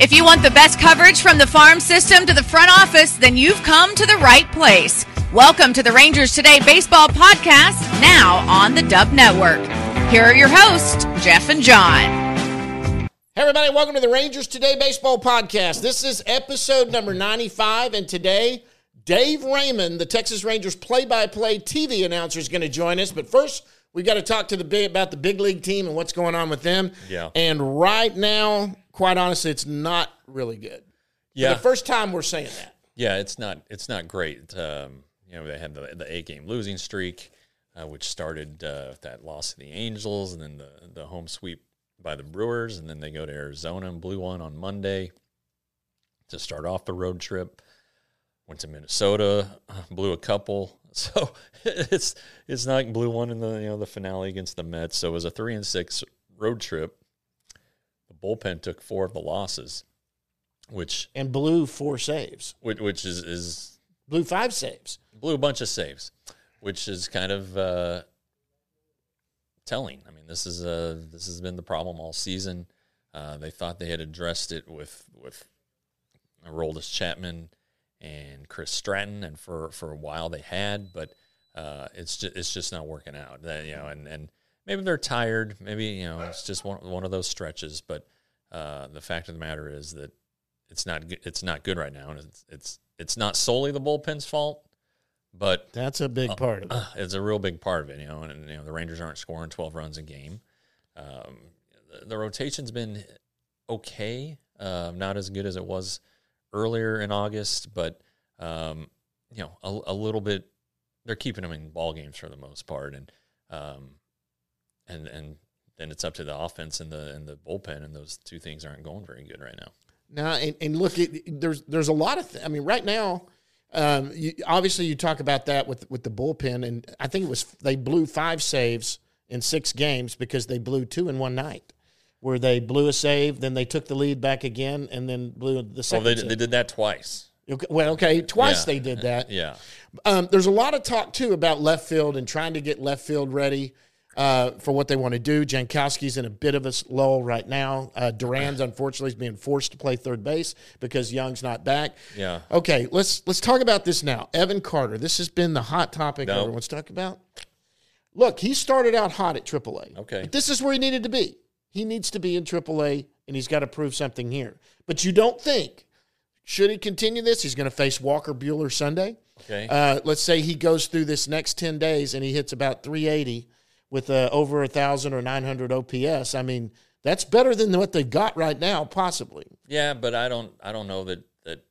If you want the best coverage from the farm system to the front office, then you've come to the right place. Welcome to the Rangers Today Baseball Podcast, now on the Dub Network. Here are your hosts, Jeff and John. Hey everybody, welcome to the Rangers Today Baseball Podcast. This is episode number 95, and today, Dave Raymond, the Texas Rangers play-by-play TV announcer, is going to join us. But first, we've got to talk about the big league team and what's going on with them. Yeah. And right now, quite honestly, it's not really good. Yeah. For the first time we're saying that. Yeah, it's not great. They had the 8-game losing streak, which started with that loss to the Angels, and then the home sweep by the Brewers, and then they go to Arizona and blew one on Monday to start off the road trip. Went to Minnesota, blew a couple. So it's not like blew one in the finale against the Mets. So it was a 3-6 road trip. The bullpen took 4 of the losses, and blew 4 saves, which is blew 5 saves, blew a bunch of saves, which is kind of telling. I mean, this has been the problem all season. They thought they had addressed it with Aroldis Chapman and Chris Stratton, and for a while they had, but it's just not working out. And maybe they're tired. Maybe it's just one of those stretches. But the fact of the matter is that it's not good right now, and it's not solely the bullpen's fault, but that's a big part of it. It's a real big part of it. And the Rangers aren't scoring 12 runs a game. The rotation's been okay, not as good as it was earlier in August, but a little bit. They're keeping them in ball games for the most part, and then it's up to the offense and the bullpen, and those two things aren't going very good right now. Now, and look, there's a lot of. I mean, right now, obviously you talk about that with the bullpen, and I think they blew 5 saves in 6 games because they blew 2 in one night, where they blew a save, then they took the lead back again, and then blew the second. Well, they did that twice. Twice they did that. Yeah. There's a lot of talk, too, about left field and trying to get left field ready for what they want to do. Jankowski's in a bit of a lull right now. Duran's, unfortunately, is being forced to play third base because Young's not back. Yeah. Okay, let's talk about this now. Evan Carter, this has been the hot topic everyone's talking about. Look, he started out hot at AAA. Okay. But this is where he needed to be. He needs to be in AAA, and he's got to prove something here. But you don't think, should he continue this, he's going to face Walker Buehler Sunday. Okay. Let's say he goes through this next 10 days and he hits about 380 with over 1,000 or 900 OPS. I mean, that's better than what they've got right now, possibly. Yeah, but I don't know that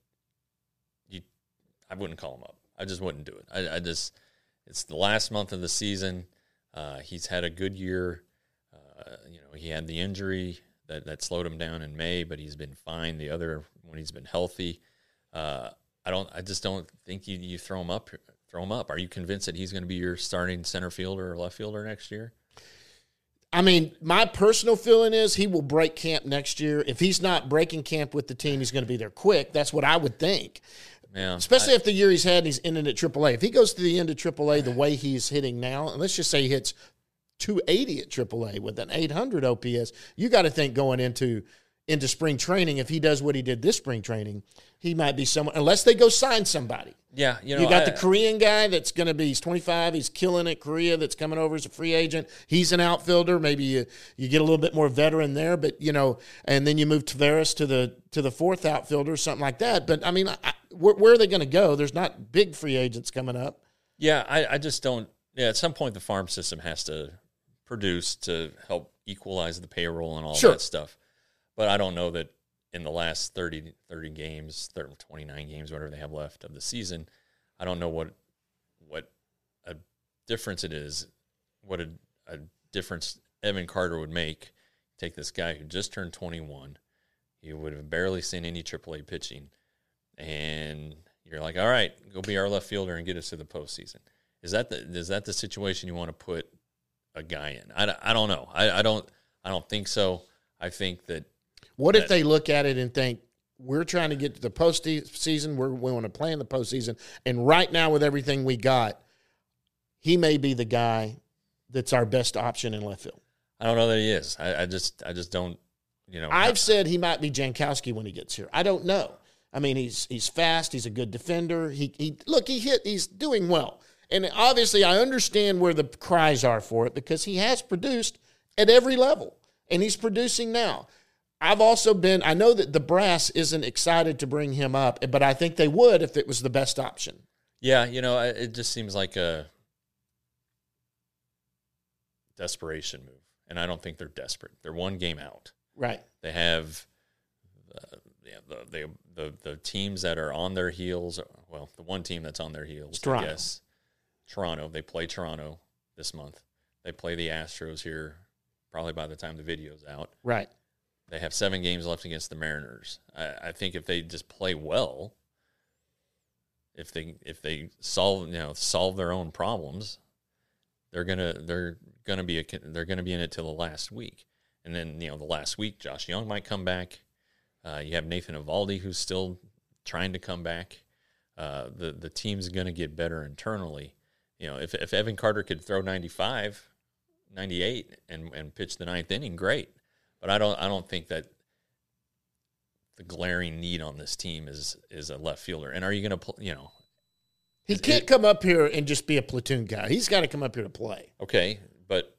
I wouldn't call him up. I just wouldn't do it. It's the last month of the season. He's had a good year. He had the injury that slowed him down in May, but he's been fine when he's been healthy. I just don't think you throw him up. Are you convinced that he's going to be your starting center fielder or left fielder next year? I mean, my personal feeling is he will break camp next year. If he's not breaking camp with the team, he's going to be there quick. That's what I would think. Yeah, especially after the year he's had and he's ending at AAA. If he goes to the end of AAA the way he's hitting now, and let's just say he hits 280 at AAA with an 800 OPS, you got to think going into spring training, if he does what he did this spring training, he might be someone, unless they go sign somebody. Yeah, you got the Korean guy that's going to be, he's 25, he's killing it, Korea, that's coming over as a free agent. He's an outfielder. Maybe you get a little bit more veteran there, but, and then you move Taveras to the fourth outfielder, something like that. But, I mean, where are they going to go? There's not big free agents coming up. Yeah, I just don't – at some point the farm system has to produce to help equalize the payroll and all that stuff. But I don't know that in the last 30 games, 29 games, whatever they have left of the season, I don't know what a difference it is, what a difference Evan Carter would make. Take this guy who just turned 21, you would have barely seen any AAA pitching, and you're like, all right, go be our left fielder and get us to the postseason. Is that the situation you want to put a guy in? I don't know. I don't think so. I think that. What if they look at it and think, we're trying to get to the postseason, we want to play in the postseason, and right now with everything we got, he may be the guy that's our best option in left field? I don't know that he is. I just don't. I've said he might be Jankowski when he gets here. I don't know. I mean, he's fast. He's a good defender. He's doing well. And obviously I understand where the cries are for it because he has produced at every level, and he's producing now. I know that the brass isn't excited to bring him up, but I think they would if it was the best option. Yeah, it just seems like a desperation move, and I don't think they're desperate. They're one game out. Right. They have the teams that are on their heels. Well, the one team that's on their heels, Toronto. I guess. Toronto. They play Toronto this month. They play the Astros here probably by the time the video's out. Right. They have 7 games left against the Mariners. I think if they just play well, if they solve their own problems, they're gonna be in it till the last week. And then, the last week, Josh Young might come back. You have Nathan Eovaldi, who's still trying to come back. The team's going to get better internally. If Evan Carter could throw 95, 98, and pitch the 9th inning, great. But I don't think that the glaring need on this team is a left fielder. And are you going to He can't come up here and just be a platoon guy. He's got to come up here to play. Okay, but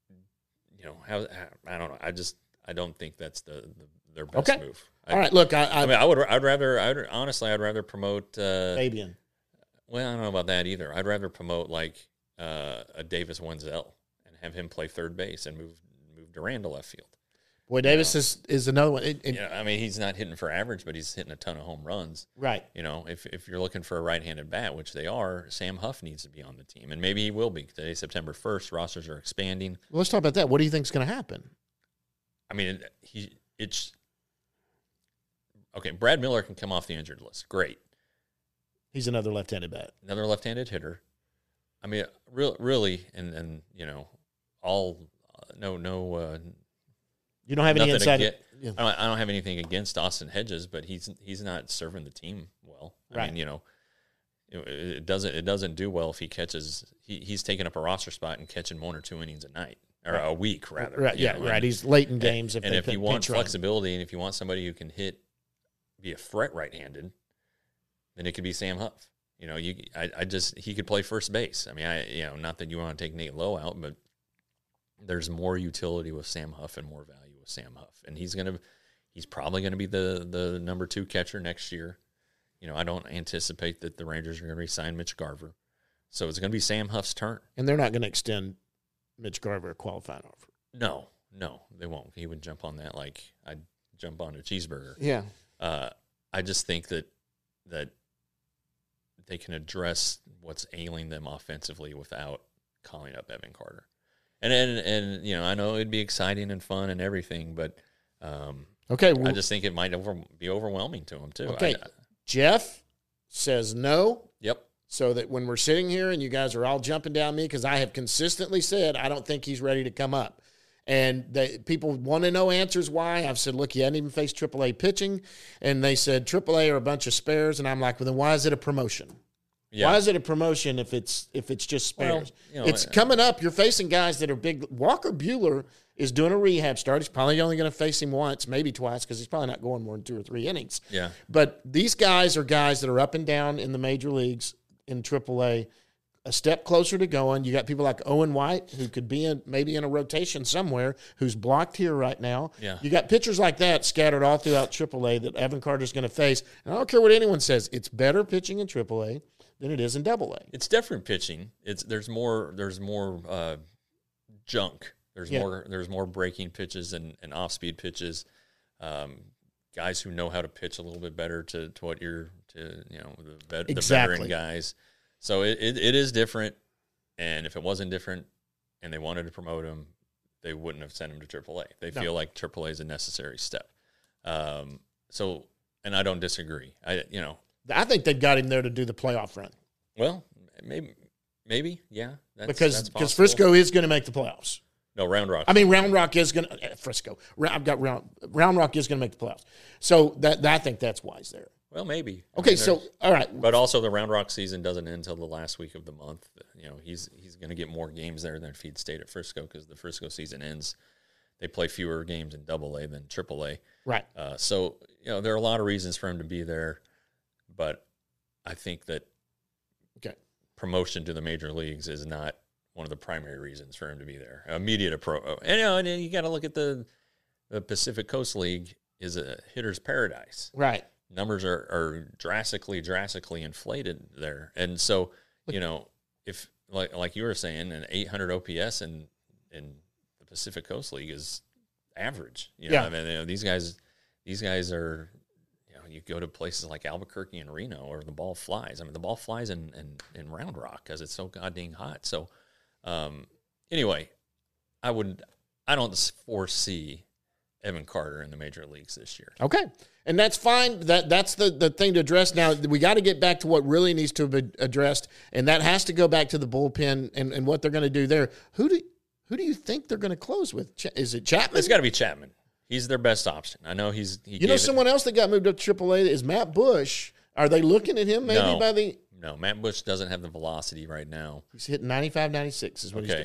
I don't know. I don't think that's their best move. All right, look, I'd rather promote Fabian. Well, I don't know about that either. I'd rather promote like a Davis Wenzel and have him play third base and move Duran to left field. Boy, Davis is another one. He's not hitting for average, but he's hitting a ton of home runs. Right. If you're looking for a right-handed bat, which they are, Sam Huff needs to be on the team, and maybe he will be. Today's September 1st. Rosters are expanding. Well, let's talk about that. What do you think is going to happen? I mean, it's okay. Brad Miller can come off the injured list. Great. He's another left-handed bat. Another left-handed hitter. I mean, really, and all no. You don't have any insight. I don't have anything against Austin Hedges, but he's not serving the team well. I mean, it doesn't do well if he catches. He's taking up a roster spot and catching 1 or 2 innings a night or a week rather. Right. Yeah. Right. He's late in games. And if you want flexibility, and if you want somebody who can be a threat right-handed, then it could be Sam Huff. He could play first base. I mean, not that you want to take Nate Lowe out, but there's more utility with Sam Huff and more value with Sam Huff. And he's probably going to be the number 2 catcher next year. I don't anticipate that the Rangers are going to re-sign Mitch Garver. So it's going to be Sam Huff's turn. And they're not going to extend Mitch Garver a qualifying offer. No, they won't. He would jump on that like I'd jump on a cheeseburger. Yeah. I just think that they can address what's ailing them offensively without calling up Evan Carter. And I know it'd be exciting and fun and everything, but I just think it might be overwhelming to him too. Okay, Jeff says no. Yep. So that when we're sitting here and you guys are all jumping down me because I have consistently said I don't think he's ready to come up. And people want to know answers why. I've said, look, you hadn't even faced AAA pitching. And they said AAA are a bunch of spares. And I'm like, well, then why is it a promotion? Yeah. Why is it a promotion if it's just spares? Well, it's coming up. You're facing guys that are big. Walker Buehler is doing a rehab start. He's probably only going to face him once, maybe twice, because he's probably not going more than 2 or 3 innings. Yeah. But these guys are guys that are up and down in the major leagues in AAA, a step closer to going. You got people like Owen White, who could be maybe in a rotation somewhere, who's blocked here right now. Yeah. You got pitchers like that scattered all throughout AAA that Evan Carter's going to face. And I don't care what anyone says. It's better pitching in AAA than it is in AA. It's different pitching. There's more junk. There's more breaking pitches and off-speed pitches. Guys who know how to pitch a little bit better to the veteran guys. So it is different, and if it wasn't different and they wanted to promote him, they wouldn't have sent him to AAA. They feel like AAA is a necessary step. And I don't disagree. I think they've got him there to do the playoff run. Well, maybe, yeah. Because Frisco is going to make the playoffs. No, Round Rock. I mean, Round Rock is going to Frisco. Round Rock is going to make the playoffs. So I think that's why he's there. Well, maybe. Okay, all right. But also the Round Rock season doesn't end until the last week of the month. He's going to get more games there than Feed State at Frisco because the Frisco season ends. they play fewer games in AA than AAA. Right. So, there are a lot of reasons for him to be there, but I think that promotion to the major leagues is not one of the primary reasons for him to be there. Immediate approach. And you got to look at the Pacific Coast League is a hitter's paradise. Right. Numbers are drastically inflated there. And so, if like you were saying, an 800 OPS in the Pacific Coast League is average. I mean, these guys are, you go to places like Albuquerque and Reno where the ball flies. I mean, the ball flies in Round Rock because it's so goddamn hot. So, anyway, I don't foresee Evan Carter in the major leagues this year. Okay. And that's fine. That's the thing to address. Now, we got to get back to what really needs to be addressed, and that has to go back to the bullpen and what they're going to do there. Who do you think they're going to close with? Is it Chapman? It's got to be Chapman. He's their best option. I know someone else that got moved up to AAA is Matt Bush. Are they looking at him maybe No, Matt Bush doesn't have the velocity right now. He's hitting 95, 96 is what he's doing.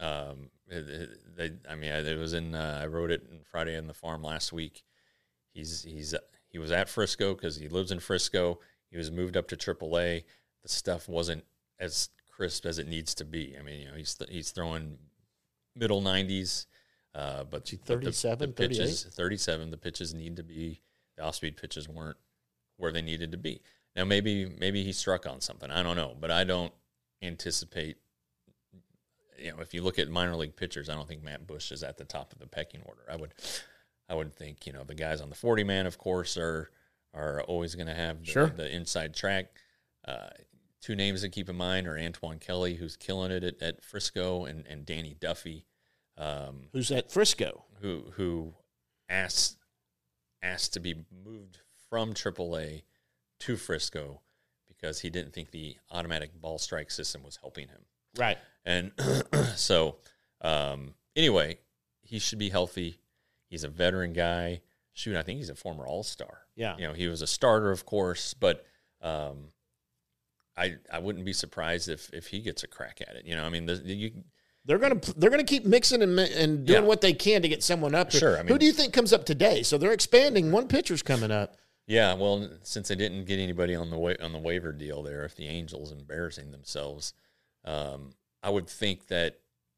It was in. I wrote it in Friday in the Farm last week. He was at Frisco because he lives in Frisco. He was moved up to AAA. The stuff wasn't as crisp as it needs to be. I mean, he's throwing middle 90s, but 37, the pitches 37. The pitches need to be. The off-speed pitches weren't where they needed to be. Now maybe he struck on something. I don't know, but I don't anticipate. If you look at minor league pitchers, I don't think Matt Bush is at the top of the pecking order. I would think, the guys on the 40-man, of course, are always going to have the inside track. Two names to keep in mind are Antoine Kelly, who's killing it at Frisco, and Danny Duffy. Who's at Frisco? Who asked to be moved from AAA to Frisco because he didn't think the automatic ball strike system was helping him. Right. And so, anyway, he should be healthy. He's a veteran guy. Shoot, I think he's a former All-Star. Yeah. He was a starter, of course, but I wouldn't be surprised if he gets a crack at it. I mean, they're gonna keep mixing and doing what they can to get someone up. Sure. I mean, who do you think comes up today? So they're expanding. One pitcher's coming up. Yeah. Well, since they didn't get anybody on the waiver deal there, if the Angels embarrassing themselves. I would think that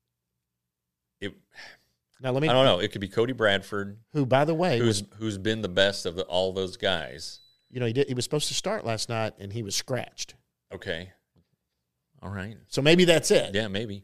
I don't know. It could be Cody Bradford, who, by the way, who's been the best of all those guys. He was supposed to start last night, and he was scratched. Okay, all right. So maybe that's it. Yeah, maybe.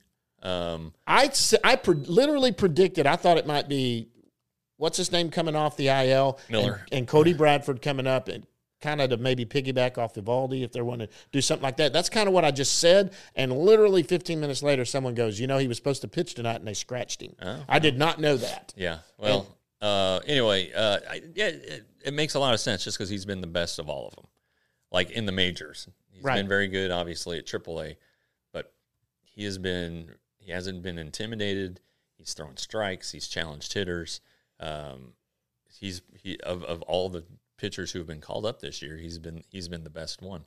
Literally predicted. I thought it might be what's his name coming off the IL, Miller, and Cody Bradford coming up and. Kind of to maybe piggyback off Eovaldi if they want to do something like that. That's kind of what I just said. And literally 15 minutes later, someone goes, he was supposed to pitch tonight, and they scratched him. Oh, I did not know that. Yeah. Well, anyway, it makes a lot of sense just because he's been the best of all of them. Like in the majors. He's been very good, obviously, at AAA. But he hasn't been intimidated. He's thrown strikes. He's challenged hitters. Of all the pitchers who have been called up this year, he's been the best one.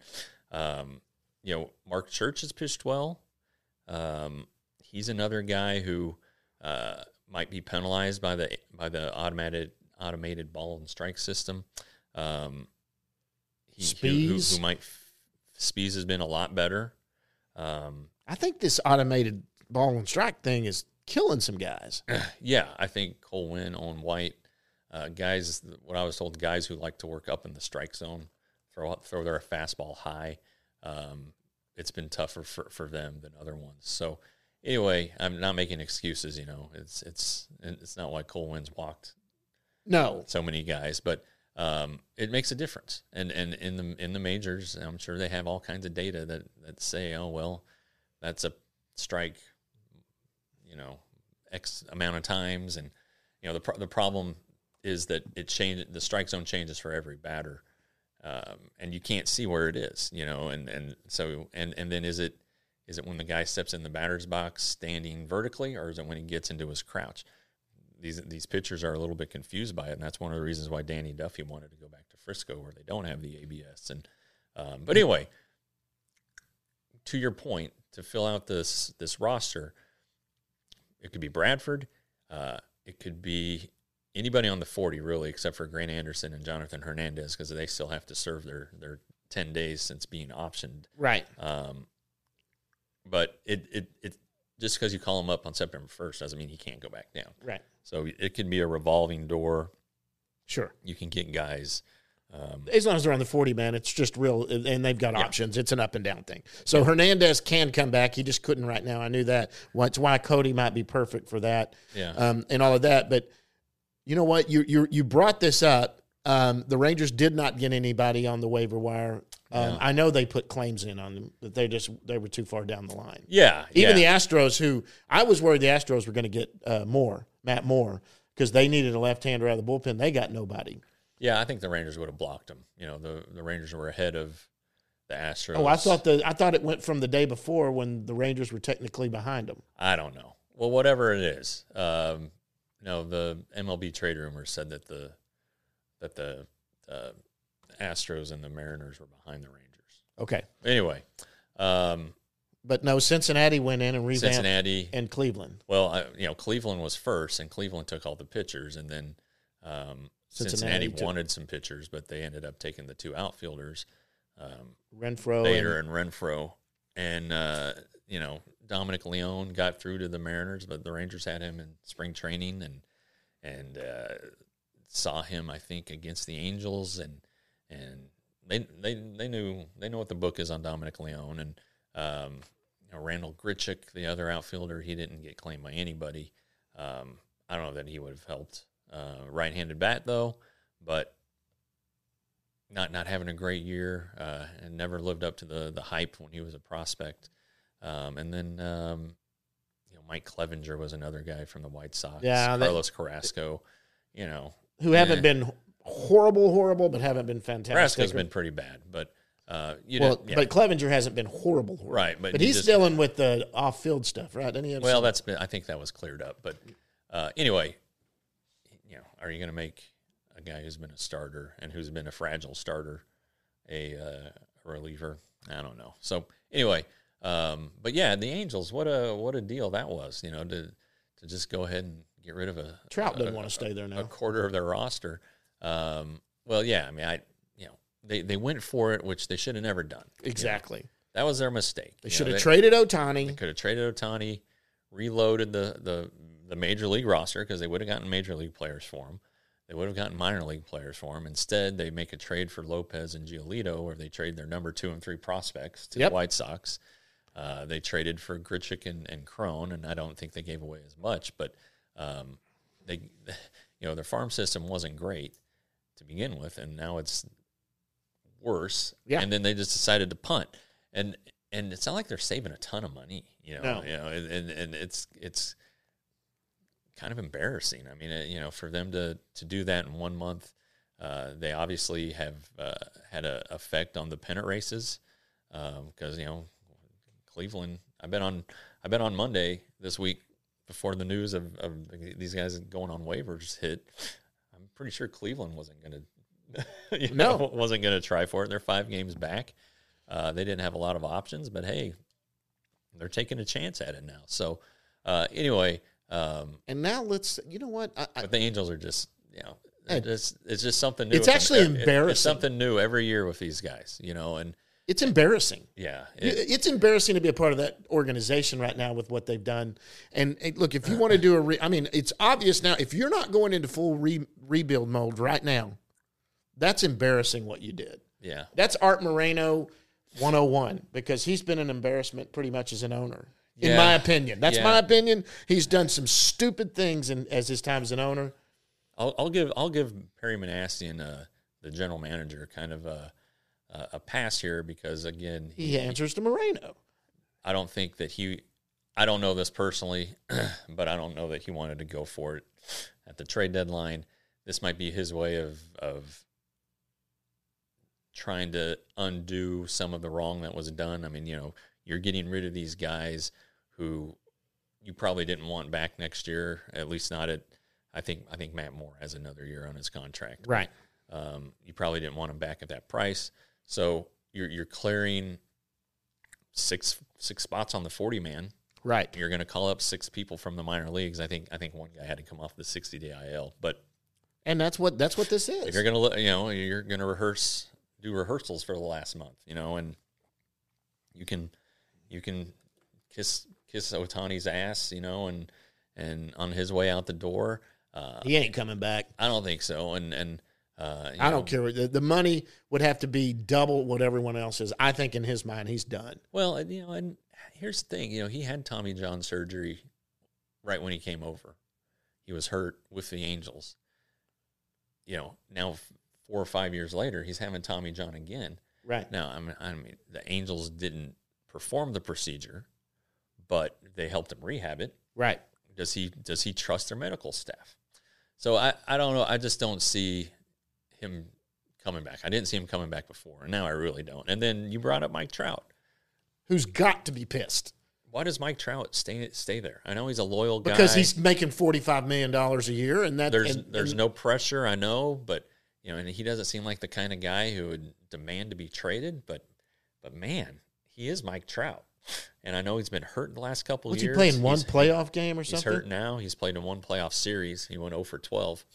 Mark Church has pitched well. He's another guy who might be penalized by the automated ball and strike system. Spies has been a lot better. I think this automated ball and strike thing is killing some guys. Yeah, I think Cole Winn, Owen White. Guys, what I was told, guys who like to work up in the strike zone, throw their fastball high. It's been tougher for them than other ones. So anyway, I'm not making excuses. It's not why Cole Winn's walked so many guys, but it makes a difference. And in the majors, I'm sure they have all kinds of data that say, oh well, that's a strike, X amount of times, and the problem is that the strike zone changes for every batter, and you can't see where it is, and then is it when the guy steps in the batter's box standing vertically, or is it when he gets into his crouch? These pitchers are a little bit confused by it, and that's one of the reasons why Danny Duffy wanted to go back to Frisco, where they don't have the ABS. And but anyway, to your point, to fill out this roster, it could be Bradford. it could be anybody on the 40, really, except for Grant Anderson and Jonathan Hernandez, because they still have to serve their 10 days since being optioned. Right. But it just because you call him up on September 1st doesn't mean he can't go back down. Right. So it can be a revolving door. Sure. You can get guys. As long as they're on the 40, man, it's just real, and they've got options. It's an up and down thing. So Hernandez can come back. He just couldn't right now. I knew that. That's why Cody might be perfect for that. Yeah. And all of that. But you know what? You brought this up. The Rangers did not get anybody on the waiver wire. I know they put claims in on them, but they were too far down the line. Yeah. Even the Astros, who I was worried the Astros were going to get Matt Moore, because they needed a left-hander out of the bullpen. They got nobody. Yeah, I think the Rangers would have blocked him. You know, the Rangers were ahead of the Astros. Oh, I thought it went from the day before when the Rangers were technically behind them. I don't know. Well, whatever it is, no, the MLB trade rumors said that the Astros and the Mariners were behind the Rangers. Okay. Anyway, but no, Cincinnati went in and revamped. Cincinnati and Cleveland. Well, Cleveland was first, and Cleveland took all the pitchers, and then Cincinnati wanted some pitchers, but they ended up taking the two outfielders, Bader and Renfroe, and Dominic Leone got through to the Mariners, but the Rangers had him in spring training and saw him, I think, against the Angels, and they know what the book is on Dominic Leone, and Randall Grichuk, the other outfielder, he didn't get claimed by anybody. I don't know that he would have helped. Right-handed bat, though, but not having a great year, and never lived up to the hype when he was a prospect. And then Mike Clevenger was another guy from the White Sox. Yeah, Carlos Carrasco, who haven't been horrible, but haven't been fantastic. Carrasco's been pretty bad, but but Clevenger hasn't been horrible. Right, but he's dealing with the off-field stuff, right? I think that was cleared up, but anyway. Are you going to make a guy who's been a starter and who's been a fragile starter a reliever? I don't know. So anyway, but yeah, the Angels, what a deal that was. To just go ahead and get rid of Trout doesn't want to stay there now. A quarter of their roster. Well, yeah, I mean, they went for it, which they should have never done. Exactly. That was their mistake. They should have traded Ohtani. They could have traded Ohtani, reloaded the major league roster, because they would have gotten major league players for him. They would have gotten minor league players for him. Instead, they make a trade for Lopez and Giolito, where they trade their number 2 and 3 prospects to the White Sox. They traded for Grichuk and Cron, and I don't think they gave away as much, but their farm system wasn't great to begin with, and now it's worse. Yeah. And then they just decided to punt, and it's not like they're saving a ton of money, No. And it's kind of embarrassing. I mean, for them to do that in 1 month, they obviously have had an effect on the pennant races, because Cleveland. I bet on Monday this week, before the news of these guys going on waivers hit, I'm pretty sure Cleveland wasn't going to wasn't going to try for it. They're 5 games back. They didn't have a lot of options, but hey, they're taking a chance at it now. So anyway. And now you know what? But the Angels are just, it's just something new. It's actually embarrassing. It's something new every year with these guys, and it's embarrassing. Yeah. It's embarrassing to be a part of that organization right now with what they've done. And look, if you want to do it's obvious now, if you're not going into full rebuild mode right now, that's embarrassing what you did. Yeah. That's Art Moreno 101, because he's been an embarrassment pretty much as an owner. In my opinion. That's my opinion. He's done some stupid things as his time as an owner. I'll give Perry Manassian, the general manager, kind of a pass here, because again he answers to Moreno. I don't think that I don't know this personally, but I don't know that he wanted to go for it at the trade deadline. This might be his way of trying to undo some of the wrong that was done. I mean, you're getting rid of these guys who you probably didn't want back next year, at least not at. I think Matt Moore has another year on his contract. Right. You probably didn't want him back at that price, so you're clearing six spots on the 40-man. Right. You're going to call up 6 people from the minor leagues. I think one guy had to come off the 60-day IL, and that's what this is. If you're going to, you're going to do rehearsals for the last month, and you can kiss Ohtani's ass, and on his way out the door. He ain't coming back. I don't think so. And I don't care. The money would have to be double what everyone else is. I think in his mind, he's done. Well, and here's the thing. He had Tommy John surgery right when he came over. He was hurt with the Angels. Now 4 or 5 years later, he's having Tommy John again. Right. Now, I mean, the Angels didn't perform the procedure, but they helped him rehab it. Right. Does he trust their medical staff? So I don't know. I just don't see him coming back. I didn't see him coming back before, and now I really don't. And then you brought up Mike Trout, who's got to be pissed. Why does Mike Trout stay there? I know he's a loyal guy because he's making $45 million a year, and that there's no pressure. I know, but and he doesn't seem like the kind of guy who would demand to be traded. But man, he is Mike Trout. And I know he's been hurt in the last couple of years. What's he playing, one playoff game or something? He's hurt now. He's played in one playoff series. He went 0 for 12.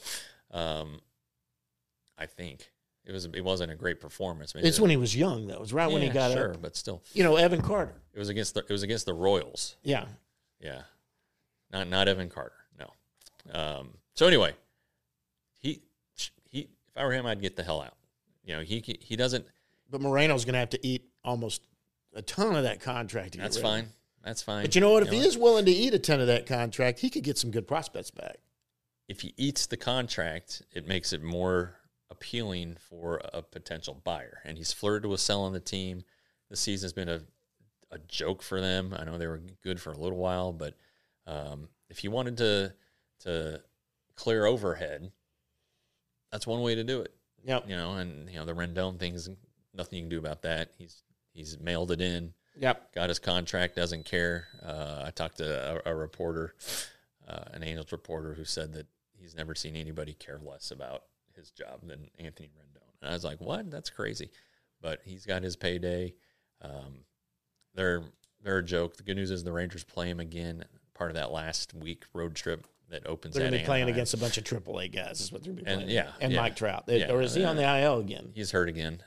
I think. It wasn't a great performance. Maybe it's when he was young, though. It was right when he got up. But still. Evan Carter. It was against the Royals. Yeah. Yeah. Not Evan Carter, no. So anyway, he if I were him, I'd get the hell out. He doesn't. But Moreno's going to have to eat almost a ton of that contract. That's fine. That's fine. But you know what? If he is willing to eat a ton of that contract, he could get some good prospects back. If he eats the contract, it makes it more appealing for a potential buyer. And he's flirted with selling the team. The season's been a joke for them. I know they were good for a little while, but if you wanted to clear overhead, that's one way to do it. Yep. And the Rendon thing is nothing you can do about that. He's mailed it in. Yep. Got his contract, doesn't care. I talked to a reporter, an Angels reporter, who said that he's never seen anybody care less about his job than Anthony Rendon. And I was like, what? That's crazy. But he's got his payday. They're a joke. The good news is the Rangers play him again, part of that last week road trip that opens. They're going to be playing against a bunch of AAA guys. Is what they're going to be playing. And Mike Trout. Or is he on the IL again? He's hurt again.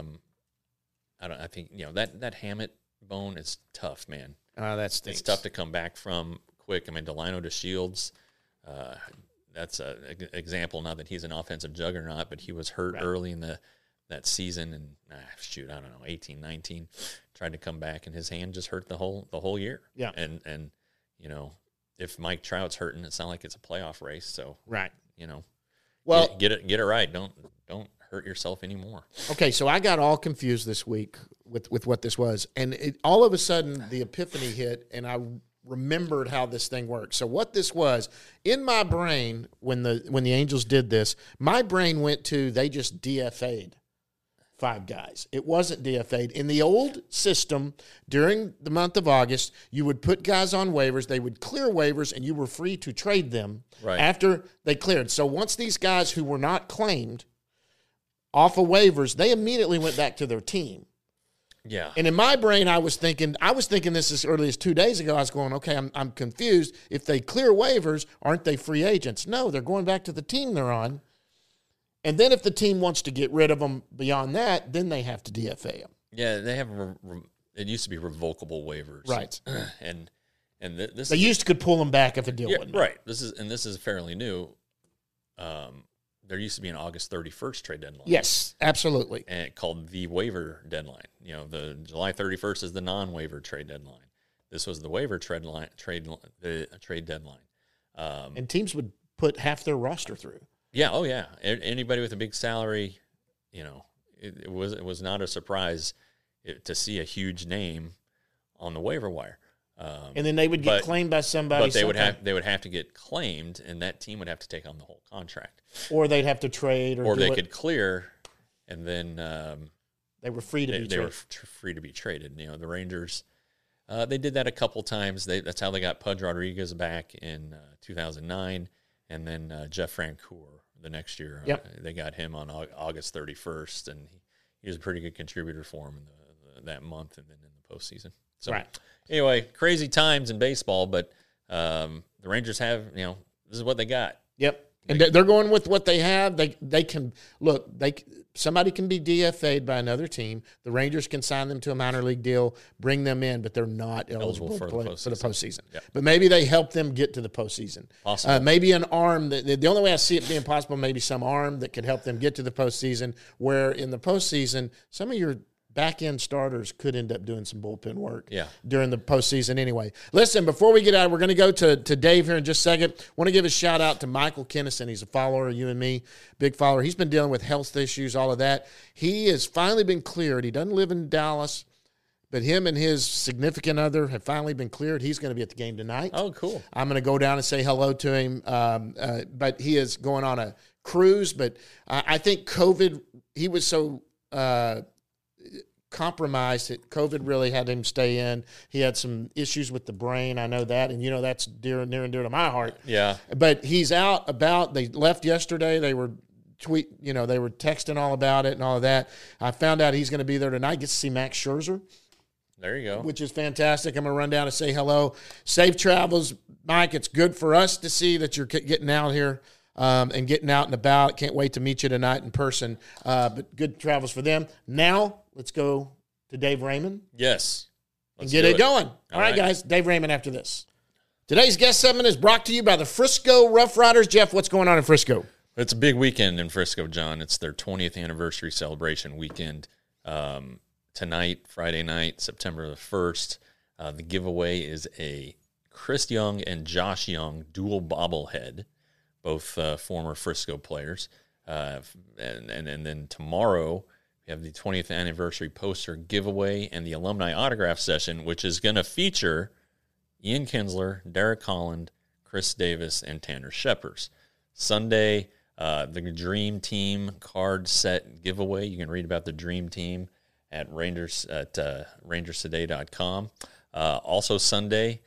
I think that Hammett bone is tough, man. That stinks. It's tough to come back from quick. I mean, Delino to Shields. That's an example. Not that he's an offensive juggernaut, but he was hurt early in that season, and I don't know, 18, 19. Tried to come back, and his hand just hurt the whole year. Yeah, and if Mike Trout's hurting, it's not like it's a playoff race. So well, get it right. Don't hurt yourself anymore. Okay, so I got all confused this week with what this was, and all of a sudden the epiphany hit, and I remembered how this thing works. So what this was in my brain when the Angels did this, my brain went to they just DFA'd 5 guys. It wasn't DFA'd. In the old system, during the month of August, you would put guys on waivers. They would clear waivers, and you were free to trade them after they cleared. So once these guys who were not claimed off of waivers, they immediately went back to their team. Yeah. And in my brain, I was thinking this as early as 2 days ago. I was going, okay, I'm confused. If they clear waivers, aren't they free agents? No, they're going back to the team they're on. And then if the team wants to get rid of them beyond that, then they have to DFA them. Yeah, they have. It used to be revocable waivers, right? And this could pull them back if a deal wasn't right. This is fairly new. There used to be an August 31st trade deadline. Yes, absolutely. And called the waiver deadline. The July 31st is the non-waiver trade deadline. This was the waiver trade deadline. And teams would put half their roster through. Yeah. Oh, yeah. Anybody with a big salary, it was not a surprise to see a huge name on the waiver wire. And then they would get claimed by somebody. But they would have to get claimed, and that team would have to take on the whole contract. Or they'd have to trade, or they could clear, and then they were free to be traded. They were free to be traded. The Rangers, they did that a couple times. That's how they got Pudge Rodriguez back in 2009, and then Jeff Francoeur the next year. Yep. They got him on August 31st, and he was a pretty good contributor for him in that month, and then in the postseason. So right. Anyway, crazy times in baseball, but the Rangers have, this is what they got. Yep. And they're going with what they have. They can look. Somebody can be DFA'd by another team. The Rangers can sign them to a minor league deal, bring them in, but they're not eligible for the postseason. Yep. But maybe they help them get to the postseason. Possible. Maybe an arm. The only way I see it being possible, maybe some arm that could help them get to the postseason. Where in the postseason, some of your back-end starters could end up doing some bullpen work during the postseason anyway. Listen, before we get out, we're going to go to Dave here in just a second. Want to give a shout-out to Michael Kennison. He's a follower of you and me, big follower. He's been dealing with health issues, all of that. He has finally been cleared. He doesn't live in Dallas, but him and his significant other have finally been cleared. He's going to be at the game tonight. Oh, cool. I'm going to go down and say hello to him, but he is going on a cruise. But I think COVID, he was so compromised that COVID really had him stay in. He had some issues with the brain. I know that, and that's near and dear to my heart. Yeah. But he's out about. They left yesterday. They were they were texting all about it and all of that. I found out he's going to be there tonight. Gets to see Max Scherzer. There you go. Which is fantastic. I'm going to run down and say hello. Safe travels, Mike. It's good for us to see that you're getting out here. And getting out and about. Can't wait to meet you tonight in person. But good travels for them. Now, let's go to Dave Raymond. Yes. And get it going. All right, guys. Dave Raymond after this. Today's guest segment is brought to you by the Frisco Rough Riders. Jeff, what's going on in Frisco? It's a big weekend in Frisco, John. It's their 20th anniversary celebration weekend. Tonight, Friday night, September the 1st, the giveaway is a Chris Young and Josh Young dual bobblehead. Both former Frisco players. And then tomorrow, we have the 20th anniversary poster giveaway and the alumni autograph session, which is going to feature Ian Kinsler, Derek Holland, Chris Davis, and Tanner Scheppers. Sunday, the Dream Team card set giveaway. You can read about the Dream Team at rangerstoday.com. Also Sunday,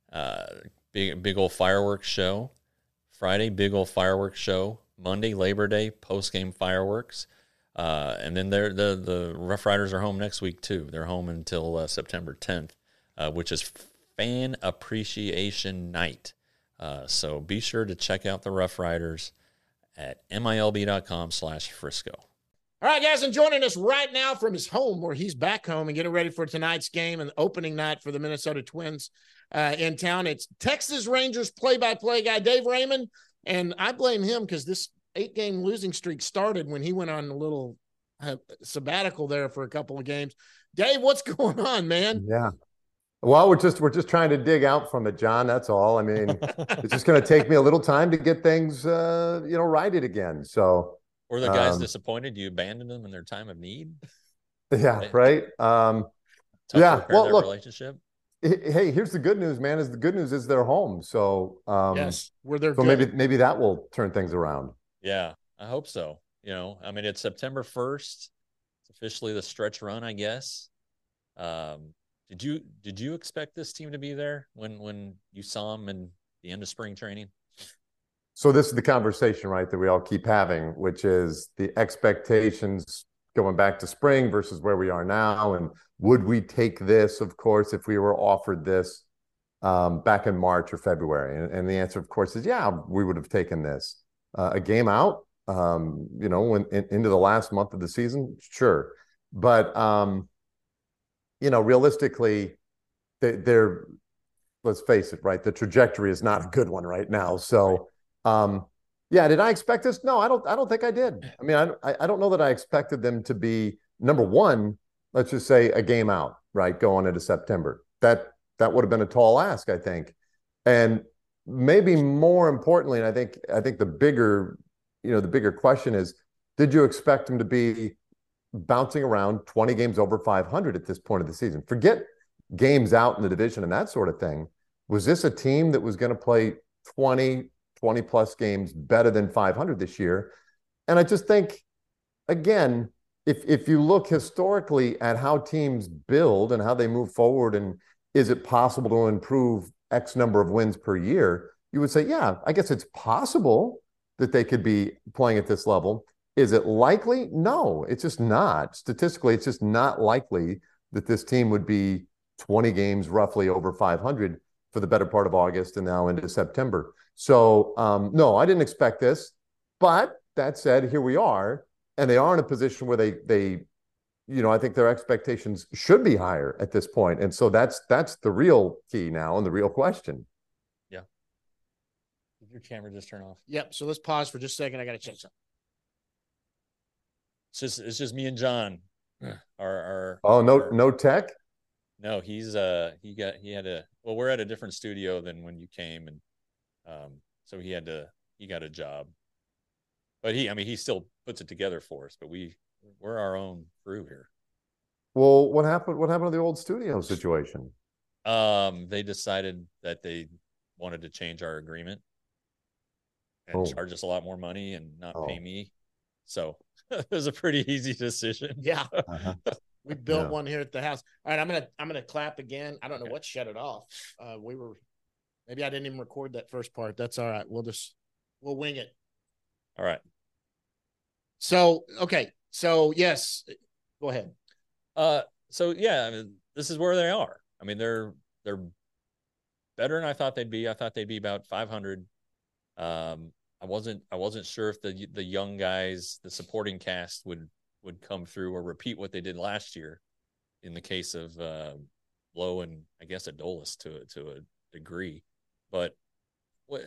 big old fireworks show. Friday, big old fireworks show. Monday, Labor Day, post-game fireworks. And then the Rough Riders are home next week, too. They're home until September 10th, which is Fan Appreciation Night. So be sure to check out the Rough Riders at milb.com/Frisco. All right, guys, and joining us right now from his home, where he's back home and getting ready for tonight's game and opening night for the Minnesota Twins in town. It's Texas Rangers play-by-play guy, Dave Raymond, and I blame him because this 8-game losing streak started when he went on a little sabbatical there for a couple of games. Dave, what's going on, man? Yeah. Well, we're just trying to dig out from it, John. That's all. I mean, it's just going to take me a little time to get things, righted again. So. Were the guys disappointed you abandoned them in their time of need? Yeah, right. Well, look, relationship. Hey, here's the good news, man. The good news is they're home. So yes, they're so good. maybe that will turn things around. Yeah, I hope so. It's September 1st. It's officially the stretch run, I guess. Did you expect this team to be there when you saw them in the end of spring training? So this is the conversation, right, that we all keep having, which is the expectations going back to spring versus where we are now. And would we take this, of course, if we were offered this back in March or February? And the answer, of course, is, yeah, we would have taken this. A game out, into the last month of the season, sure. But, realistically, they're, let's face it, right, the trajectory is not a good one right now. So, did I expect this? No, I don't think I did. I mean, I don't know that I expected them to be, number one, let's just say a game out, right, going into September. That would have been a tall ask, I think. And maybe more importantly, and I think the bigger question is, did you expect them to be bouncing around 20 games over 500 at this point of the season? Forget games out in the division and that sort of thing. Was this a team that was going to play 20 plus games better than 500 this year? And I just think, again, if you look historically at how teams build and how they move forward, and is it possible to improve X number of wins per year, you would say, yeah, I guess it's possible that they could be playing at this level. Is it likely? No, it's just not. Statistically, it's just not likely that this team would be 20 games roughly over 500 for the better part of August and now into September. So, no, I didn't expect this. But that said, here we are. And they are in a position where they I think their expectations should be higher at this point. And so that's the real key now and the real question. Yeah. Did your camera just turn off? Yep. So let's pause for just a second. I got to check something. It's just me and John. No tech? No, we're at a different studio than when you came, and so he got a job. But he still puts it together for us, but we're our own crew here. Well, what happened to the old studio situation? They decided that they wanted to change our agreement and charge us a lot more money and not pay me. So it was a pretty easy decision. Yeah. We built one here at the house. All right, I'm gonna clap again. I don't know what shut it off. Maybe I didn't even record that first part. That's all right. We'll wing it. All right. So okay. So yes, go ahead. So yeah, I mean, this is where they are. I mean, they're better than I thought they'd be. I thought they'd be about 500. I wasn't sure if the young guys, the supporting cast would come through or repeat what they did last year in the case of Lowe and I guess Adolis to a degree. But what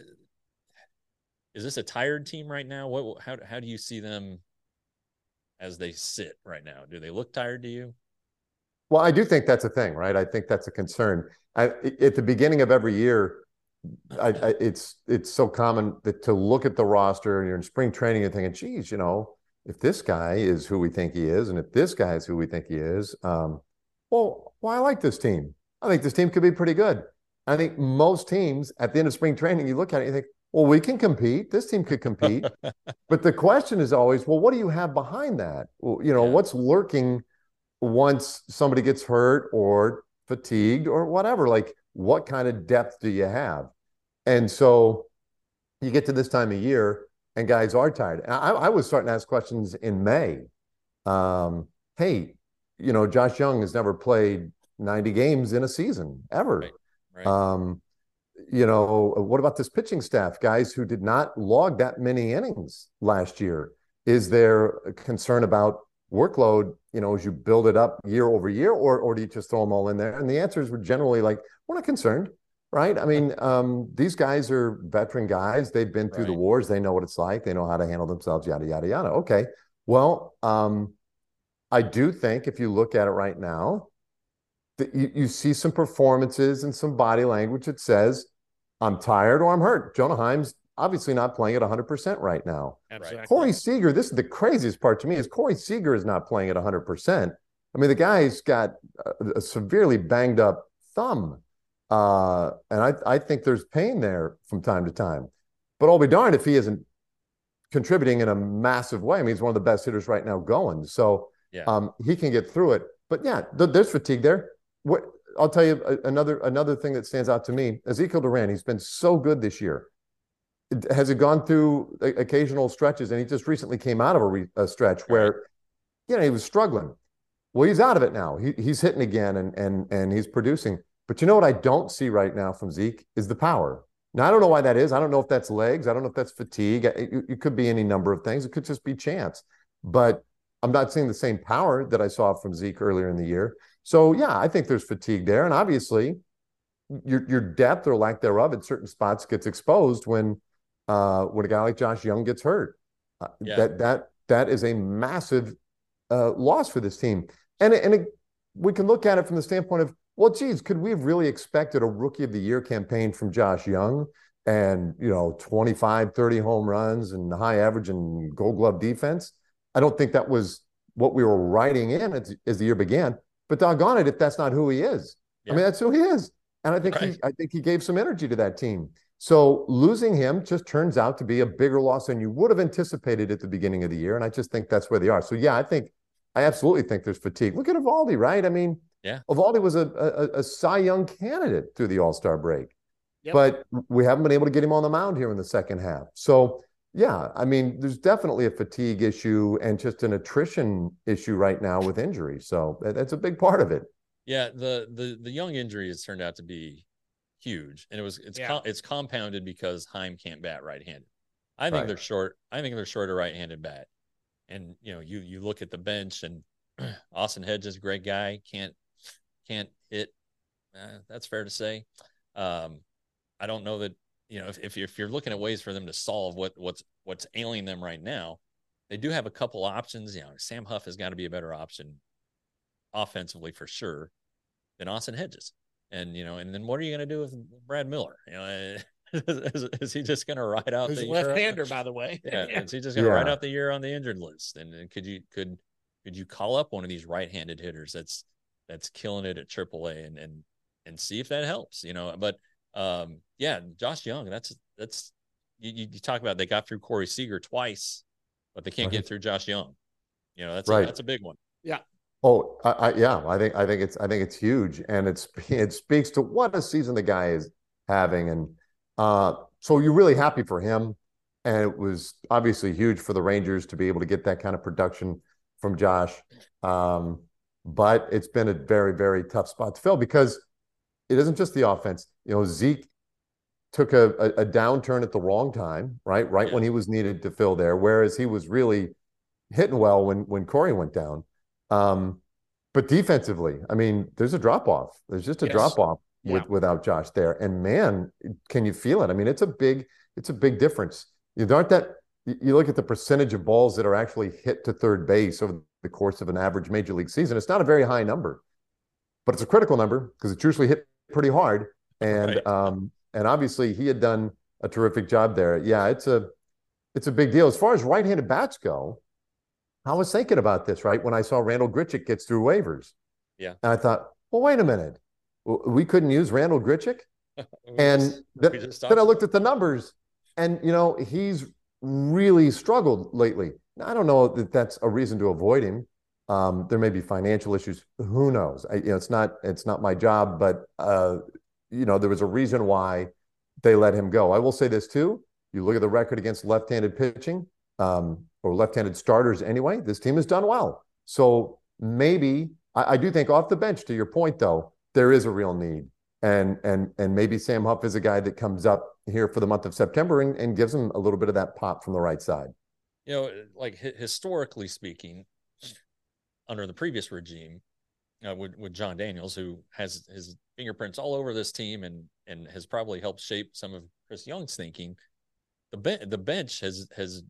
is this a tired team right now? How do you see them as they sit right now? Do they look tired to you? Well, I do think that's a thing, right? I think that's a concern. At the beginning of every year, it's so common to look at the roster and you're in spring training and thinking, geez, if this guy is who we think he is, and if this guy is who we think he is, I like this team. I think this team could be pretty good. I think most teams at the end of spring training, you look at it and you think, well, we can compete. This team could compete. But the question is always, well, what do you have behind that? Well, what's lurking once somebody gets hurt or fatigued or whatever? Like, what kind of depth do you have? And so you get to this time of year and guys are tired. And I was starting to ask questions in May. Hey, Josh Young has never played 90 games in a season ever. Right. What about this pitching staff, guys who did not log that many innings last year? Is there a concern about workload, as you build it up year over year, or do you just throw them all in there? And the answers were generally like, we're not concerned, right? I mean, these guys are veteran guys. They've been through the wars. They know what it's like. They know how to handle themselves, yada, yada, yada. Okay. Well, I do think if you look at it right now, that you see some performances and some body language that says, I'm tired or I'm hurt. Jonah Heim's obviously not playing at 100% right now. Absolutely. Corey Seager, this is the craziest part to me, is Corey Seager is not playing at 100%. I mean, the guy's got a severely banged up thumb. And I think there's pain there from time to time. But I'll be darned if he isn't contributing in a massive way. I mean, he's one of the best hitters right now going. So he can get through it. But yeah, there's fatigue there. I'll tell you another thing that stands out to me. Ezekiel Duran, he's been so good this year. Has it gone through occasional stretches? And he just recently came out of a stretch where, he was struggling. Well, he's out of it now. He's hitting again and he's producing. But you know what I don't see right now from Zeke is the power. Now, I don't know why that is. I don't know if that's legs. I don't know if that's fatigue. It could be any number of things. It could just be chance. But I'm not seeing the same power that I saw from Zeke earlier in the year. So, yeah, I think there's fatigue there. And obviously, your depth or lack thereof at certain spots gets exposed when a guy like Josh Young gets hurt. That is a massive loss for this team. And we can look at it from the standpoint of, well, geez, could we have really expected a Rookie of the Year campaign from Josh Young and, 25, 30 home runs and high average and Gold Glove defense? I don't think that was what we were writing in as the year began. But doggone it, if that's not who he is. I mean, that's who he is. And I think he gave some energy to that team. So losing him just turns out to be a bigger loss than you would have anticipated at the beginning of the year. And I just think that's where they are. So, yeah, I absolutely think there's fatigue. Look at Eovaldi, right? I mean, Eovaldi was a Cy Young candidate through the All-Star break. Yep. But we haven't been able to get him on the mound here in the second half. So, yeah, I mean, there's definitely a fatigue issue and just an attrition issue right now with injury. So that's a big part of it. Yeah, the young injury has turned out to be huge, and it's compounded because Heim can't bat right-handed. I think they're short. I think they're short a right-handed bat, and you look at the bench, and Austin Hedges, great guy, can't hit. That's fair to say. I don't know that if you're looking at ways for them to solve what's ailing them right now, they do have a couple options. Sam Huff has got to be a better option offensively for sure than Austin Hedges. And then what are you going to do with Brad Miller? Is he just going to ride out the left-hander, by the way? Yeah, is he just going to ride out the year on the injured list? And could you call up one of these right-handed hitters that's killing it at AAA and see if that helps? But Josh Young, that's you talk about, they got through Corey Seager twice, but they can't get through Josh Young. That's a big one. Yeah. Oh, I think it's huge, and it speaks to what a season the guy is having, and so you're really happy for him, and it was obviously huge for the Rangers to be able to get that kind of production from Josh, but it's been a very, very tough spot to fill because it isn't just the offense. Zeke took a downturn at the wrong time, right when he was needed to fill there, whereas he was really hitting well when Corey went down. But defensively, I mean, there's a drop off. There's just a drop off without Josh there. And man, can you feel it? I mean, it's a big difference. You look at the percentage of balls that are actually hit to third base over the course of an average major league season. It's not a very high number, but it's a critical number because it's usually hit pretty hard. And and obviously he had done a terrific job there. Yeah, it's a big deal. As far as right-handed bats go, I was thinking about this, right, when I saw Randal Grichuk gets through waivers. Yeah. And I thought, well, wait a minute. We couldn't use Randal Grichuk? Then I looked at the numbers, and, he's really struggled lately. Now, I don't know that that's a reason to avoid him. There may be financial issues. Who knows? It's not my job, but, there was a reason why they let him go. I will say this, too. You look at the record against left-handed pitching, or left-handed starters anyway, this team has done well. So maybe, I do think off the bench, to your point, though, there is a real need. And maybe Sam Huff is a guy that comes up here for the month of September and gives him a little bit of that pop from the right side. Like historically speaking, under the previous regime, with John Daniels, who has his fingerprints all over this team and has probably helped shape some of Chris Young's thinking, the bench has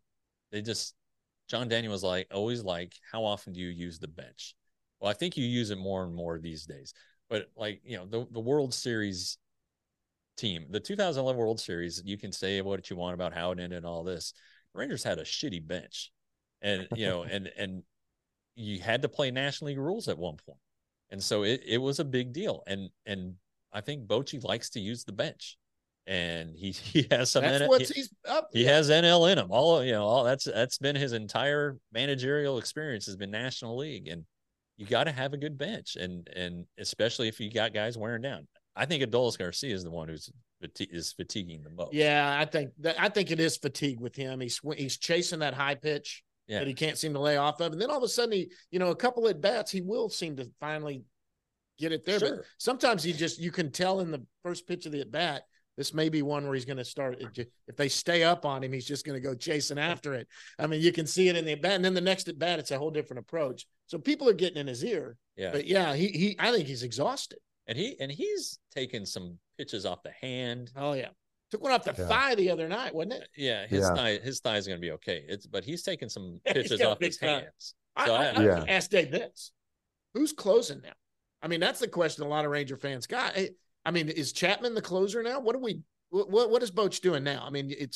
John Daniels always how often do you use the bench? Well, I think you use it more and more these days. But the World Series team, the 2011 World Series, you can say what you want about how it ended and all this. The Rangers had a shitty bench, and and you had to play National League rules at one point, and so it was a big deal. And I think Bochy likes to use the bench. And he has some. That's what he's up. He has NL in him. All that's been his entire managerial experience has been National League, and you got to have a good bench, and especially if you got guys wearing down. I think Adolis Garcia is the one is fatiguing the most. Yeah, I think it is fatigue with him. He's chasing that high pitch that he can't seem to lay off of, and then all of a sudden a couple at bats he will seem to finally get it there. Sure. But sometimes you can tell in the first pitch of the at bat. This may be one where he's going to start. If they stay up on him, he's just going to go chasing after it. I mean, you can see it in the at bat, and then the next at bat, it's a whole different approach. So people are getting in his ear. Yeah, but he I think he's exhausted. And he's taken some pitches off the hand. Oh yeah, took one off the thigh the other night, wasn't it? Yeah, his thigh is going to be okay. But he's taken some pitches off his hands. So I asked Dave this: who's closing now? I mean, that's the question a lot of Ranger fans got. I mean, is Chapman the closer now? What is Boch doing now? I mean, it's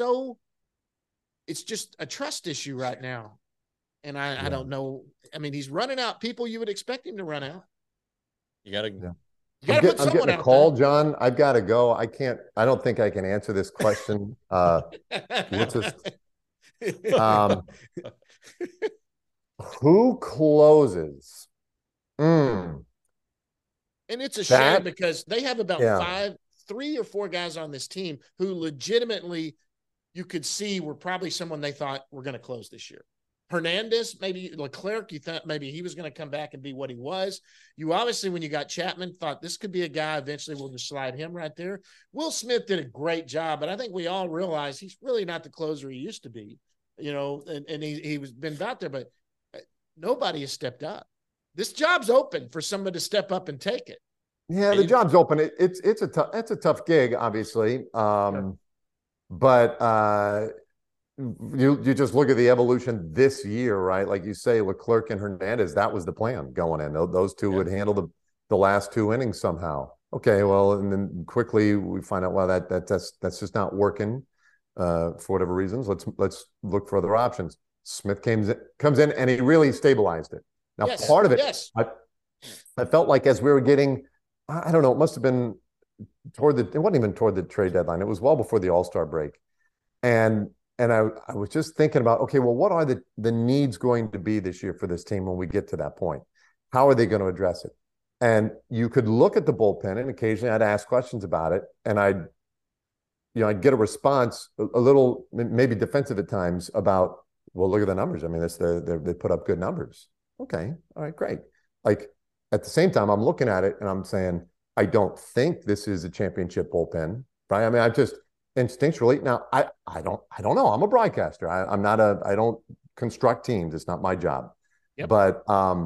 just a trust issue right now. And I don't know. I mean, he's running out people you would expect him to run out. You got to I'm getting a call, John. I've got to go. I don't think I can answer this question. Let's just, who closes? And it's a shame because they have about 3 or 4 guys on this team who legitimately you could see were probably someone they thought were going to close this year. Hernandez, maybe Leclerc, you thought maybe he was going to come back and be what he was. You obviously, when you got Chapman, thought this could be a guy eventually we'll just slide him right there. Will Smith did a great job, but I think we all realize he's really not the closer he used to be, and he was been out there, but nobody has stepped up. This job's open for somebody to step up and take it. Yeah, the job's open. It's a tough gig, obviously. Sure. But you just look at the evolution this year, right? Like you say, Leclerc and Hernandez, that was the plan going in. Those two would handle the last two innings somehow. Okay, well, and then quickly we find out, well, that's just not working for whatever reasons. Let's look for other options. Smith comes in and he really stabilized it. Now, part of it, I felt like as we were getting, I don't know, it must have been it wasn't even toward the trade deadline. It was well before the All-Star break. And I was just thinking about, okay, well, what are the needs going to be this year for this team when we get to that point? How are they going to address it? And you could look at the bullpen, and occasionally I'd ask questions about it, and I'd get a response, a little maybe defensive at times about, well, look at the numbers. I mean, they put up good numbers. Okay, all right, great. Like at the same time, I'm looking at it and I'm saying, I don't think this is a championship bullpen, right? I mean, I just instinctually now I don't know. I'm a broadcaster. I don't construct teams. It's not my job. Yep. But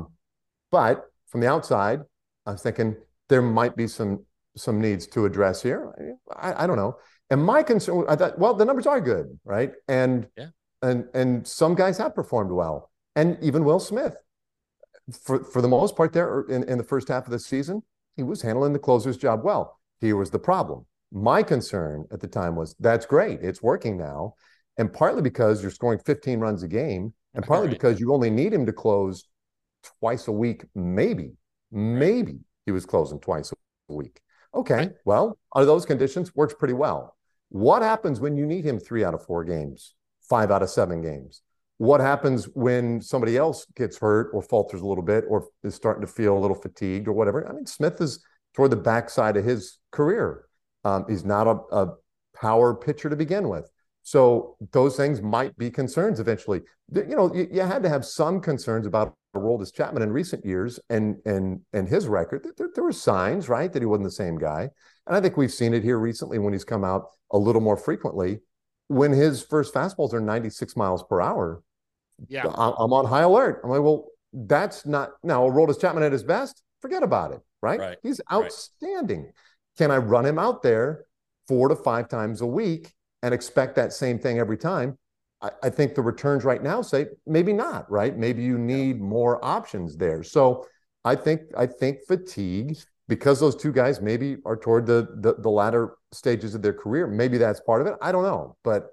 from the outside, I was thinking there might be some needs to address here. I don't know. And my concern, I thought, well, the numbers are good, right? And some guys have performed well, and even Will Smith, for the most part, there in the first half of the season, he was handling the closer's job well. Here was the problem. My concern at the time was that's great. It's working now. And partly because you're scoring 15 runs a game, and partly because you only need him to close twice a week, maybe he was closing twice a week. Okay, well, under those conditions, works pretty well. What happens when you need him 3 out of 4 games, 5 out of 7 games? What happens when somebody else gets hurt or falters a little bit or is starting to feel a little fatigued or whatever? I mean, Smith is toward the backside of his career. He's not a power pitcher to begin with. So those things might be concerns eventually. You had to have some concerns about Aroldis Chapman in recent years and his record. There were signs, right, that he wasn't the same guy. And I think we've seen it here recently when he's come out a little more frequently. When his first fastballs are 96 miles per hour, I'm on high alert. I'm like, well, that's not now Aroldis Chapman at his best. Forget about it, right? He's outstanding. Right. Can I run him out there 4 to 5 times a week and expect that same thing every time? I think the returns right now say maybe not, right? Maybe you need more options there. So I think fatigue, because those two guys maybe are toward the latter stages of their career, maybe that's part of it. I don't know. But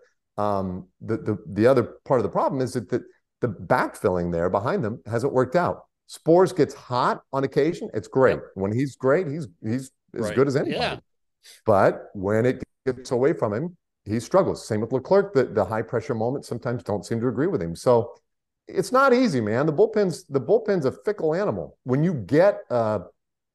the other part of the problem is that the backfilling there behind them hasn't worked out. Sproles gets hot on occasion. It's great. When he's great, he's as good as anybody. Yeah. But when it gets away from him, he struggles. Same with Leclerc. The high pressure moments sometimes don't seem to agree with him. So it's not easy, man. The bullpen's a fickle animal. When you get a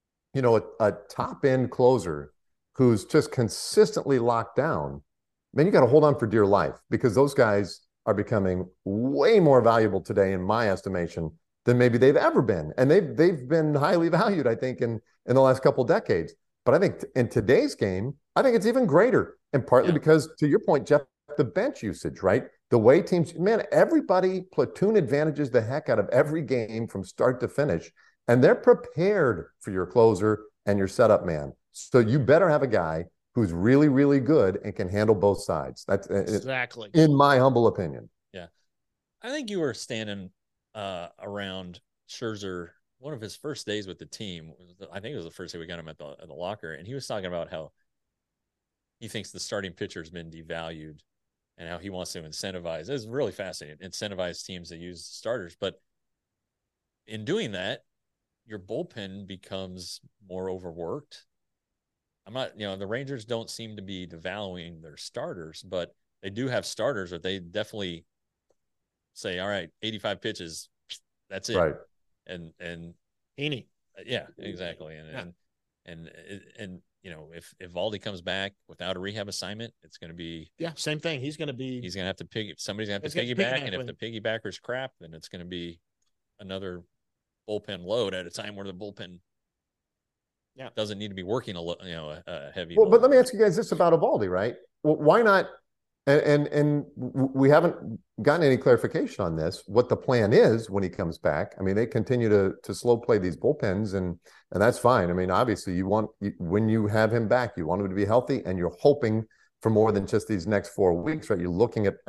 top end closer who's just consistently locked down, man, you got to hold on for dear life, because those guys are becoming way more valuable today, in my estimation, than maybe they've ever been. And they've been highly valued, I think, in the last couple of decades. But I think in today's game, I think it's even greater. And partly because, to your point, Jeff, the bench usage, right? The way teams, man, everybody platoon advantages the heck out of every game from start to finish. And they're prepared for your closer and your setup man. So you better have a guy who's really, really good and can handle both sides. That's exactly in my humble opinion. Yeah. I think you were standing around Scherzer one of his first days with the team. I think it was the first day we got him at the locker, and he was talking about how he thinks the starting pitcher has been devalued and how he wants to incentivize. It's really fascinating. Incentivize teams that use starters. But in doing that, your bullpen becomes more overworked. I'm not, the Rangers don't seem to be devaluing their starters, but they do have starters that they definitely say, all right, 85 pitches, that's it. Right. And Heaney. Yeah, exactly. And if Valdi comes back without a rehab assignment, it's going to be same thing. He's going to have to somebody's going to have to piggyback, and if the piggybacker's crap, then it's going to be another bullpen load at a time where the bullpen doesn't need to be working a heavy. Well, but let me ask you guys this about Eovaldi, right? Well, why not? And we haven't gotten any clarification on this. What the plan is when he comes back? I mean, they continue to slow play these bullpens, and that's fine. I mean, obviously, when you have him back, you want him to be healthy, and you're hoping for more than just these next 4 weeks, right? You're looking at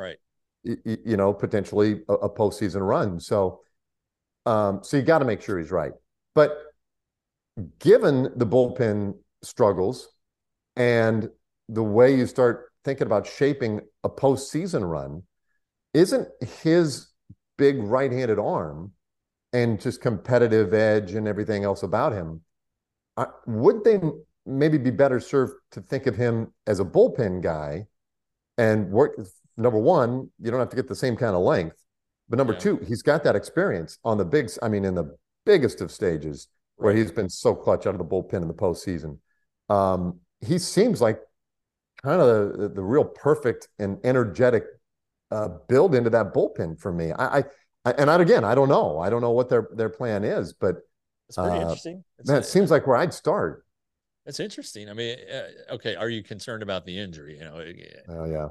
potentially a postseason run. So you got to make sure he's right. But given the bullpen struggles and the way you start thinking about shaping a postseason run, isn't his big right-handed arm and just competitive edge and everything else about him, would they maybe be better served to think of him as a bullpen guy and work? Number one, you don't have to get the same kind of length, but number two, he's got that experience on in the biggest of stages where he's been so clutch out of the bullpen in the postseason. He seems like kind of the real perfect and energetic build into that bullpen for me. I don't know. I don't know what their plan is, but it's pretty interesting. It seems like where I'd start. It's interesting. I mean, okay, are you concerned about the injury? Oh yeah.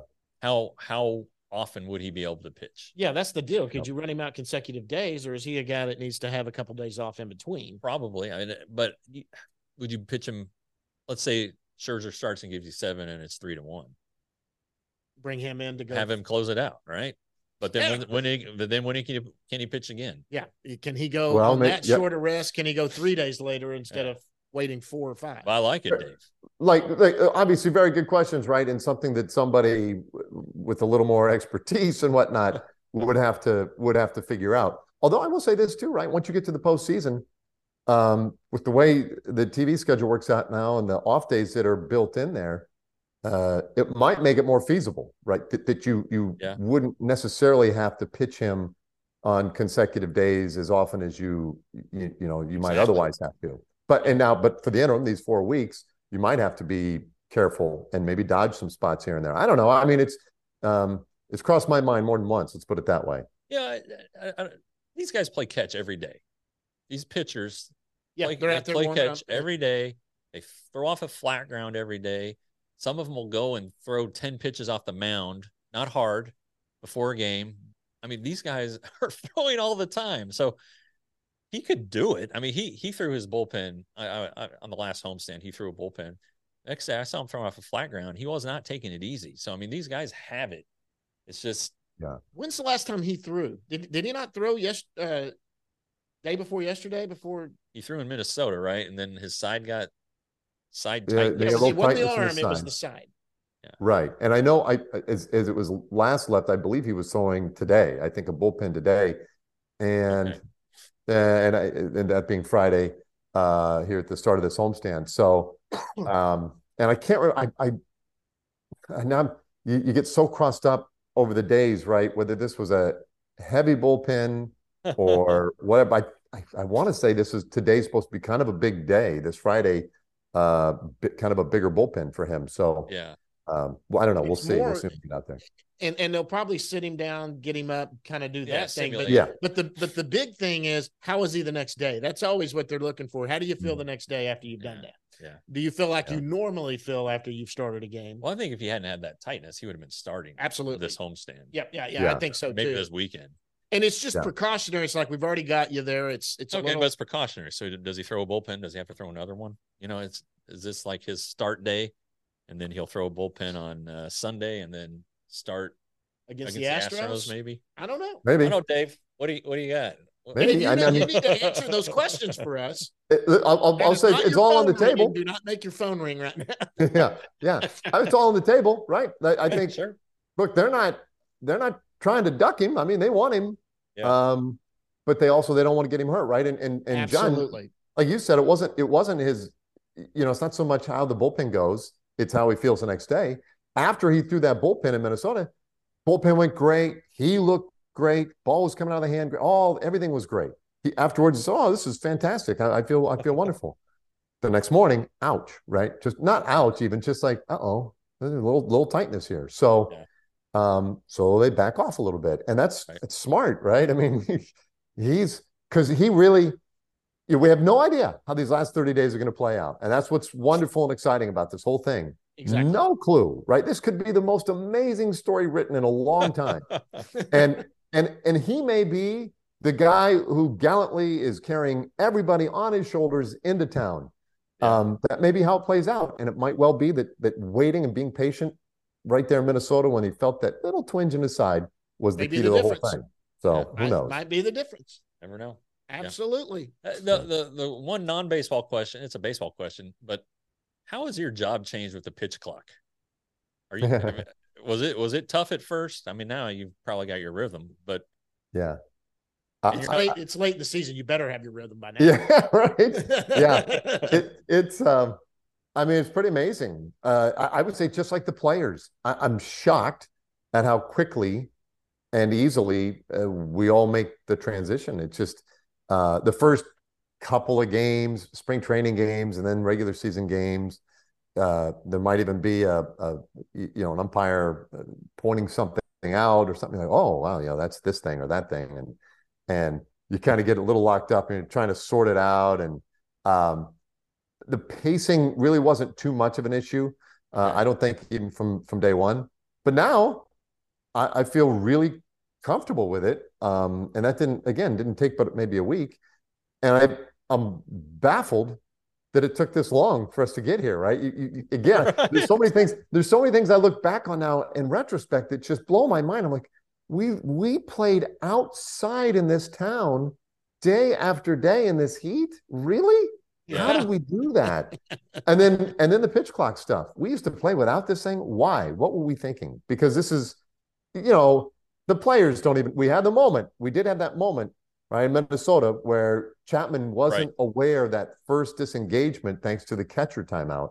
How often would he be able to pitch? Yeah, that's the deal. Could you run him out consecutive days, or is he a guy that needs to have a couple days off in between? Probably. I mean, but would you pitch him? Let's say Scherzer starts and gives you 7, and it's 3-1. Bring him in to go have him close it out, right? But then when can he pitch again? Yeah, can he go on that shorter rest? Can he go 3 days later instead of waiting 4 or 5? Well, I like it, Dave. Like obviously very good questions, right? And something that somebody with a little more expertise and whatnot would have to figure out. Although I will say this too, right? Once you get to the postseason, with the way the TV schedule works out now and the off days that are built in there, it might make it more feasible, right? That you wouldn't necessarily have to pitch him on consecutive days as often as you might otherwise have to. But for the interim, these 4 weeks, you might have to be careful and maybe dodge some spots here and there. I don't know. I mean, it's crossed my mind more than once. Let's put it that way. Yeah, these guys play catch every day. These pitchers, they're out there play catch every day. They throw off a flat ground every day. Some of them will go and throw 10 pitches off the mound, not hard, before a game. I mean, these guys are throwing all the time. So he could do it. I mean, he threw his bullpen on the last homestand. He threw a bullpen. Next day, I saw him throw off a flat ground. He was not taking it easy. So, I mean, these guys have it. It's just. Yeah. When's the last time he threw? Did he not throw day before yesterday? Before he threw in Minnesota, right? And then his side got tight. It wasn't the arm, it was the side. Yeah. Right. And I know as it was last left, I believe he was throwing today. I think a bullpen today. And and that being Friday here at the start of this homestand. So and I can't remember now you get so crossed up over the days, right? Whether this was a heavy bullpen or whatever. I want to say today's supposed to be kind of a big day. This Friday, kind of a bigger bullpen for him. So yeah. Well, I don't know. We'll see. We'll see him get out there. And they'll probably sit him down, get him up, kind of do that thing. But the big thing is, how is he the next day? That's always what they're looking for. How do you feel the next day after you've done that? Yeah. Do you feel like you normally feel after you've started a game? Well, I think if he hadn't had that tightness, he would have been starting absolutely this homestand. Yeah. I think so Maybe too. this weekend. And it's just precautionary. It's like we've already got you there. It's okay, but it's precautionary. So does he throw a bullpen? Does he have to throw another one? Is this like his start day, and then he'll throw a bullpen on Sunday, and then start against the Astros? Maybe I don't know. Maybe I don't know, Dave. What do you got? Maybe you need to answer those questions for us. I'll say it's all on the table. Do not make your phone ring right now. yeah. It's all on the table, right? I think. Sure. Look, they're not trying to duck him. I mean, they want him. Yeah. But they don't want to get him hurt, right? And Absolutely. John, like you said, it wasn't his. It's not so much how the bullpen goes; it's how he feels the next day. After he threw that bullpen in Minnesota, bullpen went great. He looked great. Ball was coming out of the hand. Everything was great. He afterwards said, "Oh, this is fantastic. I feel wonderful." the next morning, ouch, right? Just not ouch, even just like, uh-oh, there's a little tightness here. So, so they back off a little bit, and that's smart, right? I mean, because he really, we have no idea how these last 30 days are going to play out, and that's what's wonderful and exciting about this whole thing. Exactly. No clue, right? This could be the most amazing story written in a long time, and he may be the guy who gallantly is carrying everybody on his shoulders into town. That may be how it plays out. And it might well be that waiting and being patient right there in Minnesota when he felt that little twinge in his side was the key to the whole thing. So who knows? Might be the difference. Never know. Absolutely. The one non-baseball question, it's a baseball question, but how has your job changed with the pitch clock? Are you was it tough at first? I mean, now you've probably got your rhythm, but yeah. It's late in the season. You better have your rhythm by now. Yeah, right. Yeah, it's. I mean, it's pretty amazing. I would say just like the players, I'm shocked at how quickly and easily we all make the transition. It's just the first couple of games, spring training games, and then regular season games. There might even be an umpire pointing something out or something like, oh wow, that's this thing or that thing, and you kind of get a little locked up and you're trying to sort it out. And the pacing really wasn't too much of an issue. I don't think even from day one, but now I feel really comfortable with it. And that didn't take but maybe a week. And I'm baffled that it took this long for us to get here. Right. Again, there's so many things I look back on now in retrospect that just blow my mind. I'm like, we played outside in this town day after day in this heat. Really? Yeah. How did we do that? and then the pitch clock stuff. We used to play without this thing. Why? What were we thinking? Because this is, the players don't even. We had the moment. We did have that moment, right, in Minnesota where Chapman wasn't aware of that first disengagement thanks to the catcher timeout.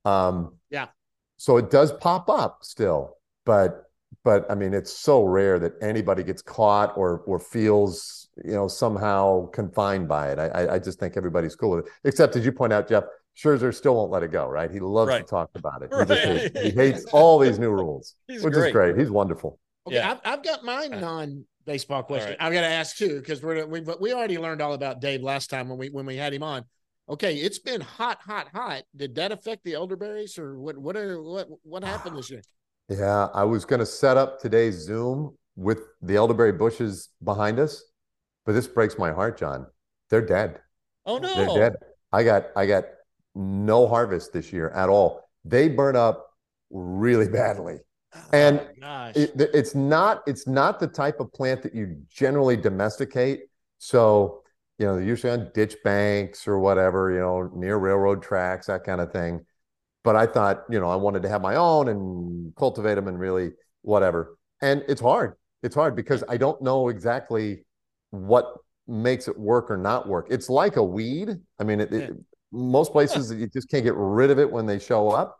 So it does pop up still, but I mean, it's so rare that anybody gets caught or feels, somehow confined by it. I just think everybody's cool with it, except as you point out, Jeff, Scherzer still won't let it go, right? He loves to talk about it. He hates all these new rules, which is great. He's wonderful. Okay, yeah. I've got my non-baseball question. I've got to ask too, because we already learned all about Dave last time when we had him on. Okay, it's been hot. Did that affect the elderberries, or what happened this year? Yeah, I was going to set up today's Zoom with the elderberry bushes behind us, but this breaks my heart, John. They're dead. Oh no, they're dead. I got no harvest this year at all. They burn up really badly, and it's not the type of plant that you generally domesticate. So they're usually on ditch banks or whatever, near railroad tracks, that kind of thing. But I thought, I wanted to have my own and cultivate them and really whatever. And it's hard. It's hard because I don't know exactly what makes it work or not work. It's like a weed. I mean, most places you just can't get rid of it when they show up.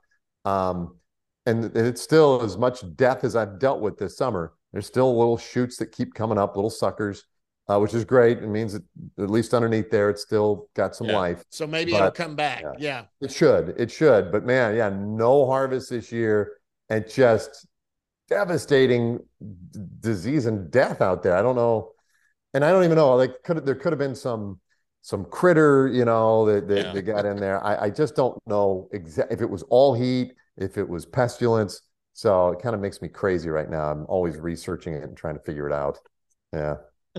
And it's still, as much death as I've dealt with this summer, there's still little shoots that keep coming up, little suckers. Which is great. It means that at least underneath there, it's still got some life. So maybe it'll come back. Yeah. It should. But man, no harvest this year and just devastating disease and death out there. I don't know. And I don't even know, there could have been some critter, that got in there. I just don't know exactly if it was all heat, if it was pestilence. So it kind of makes me crazy right now. I'm always researching it and trying to figure it out. Yeah.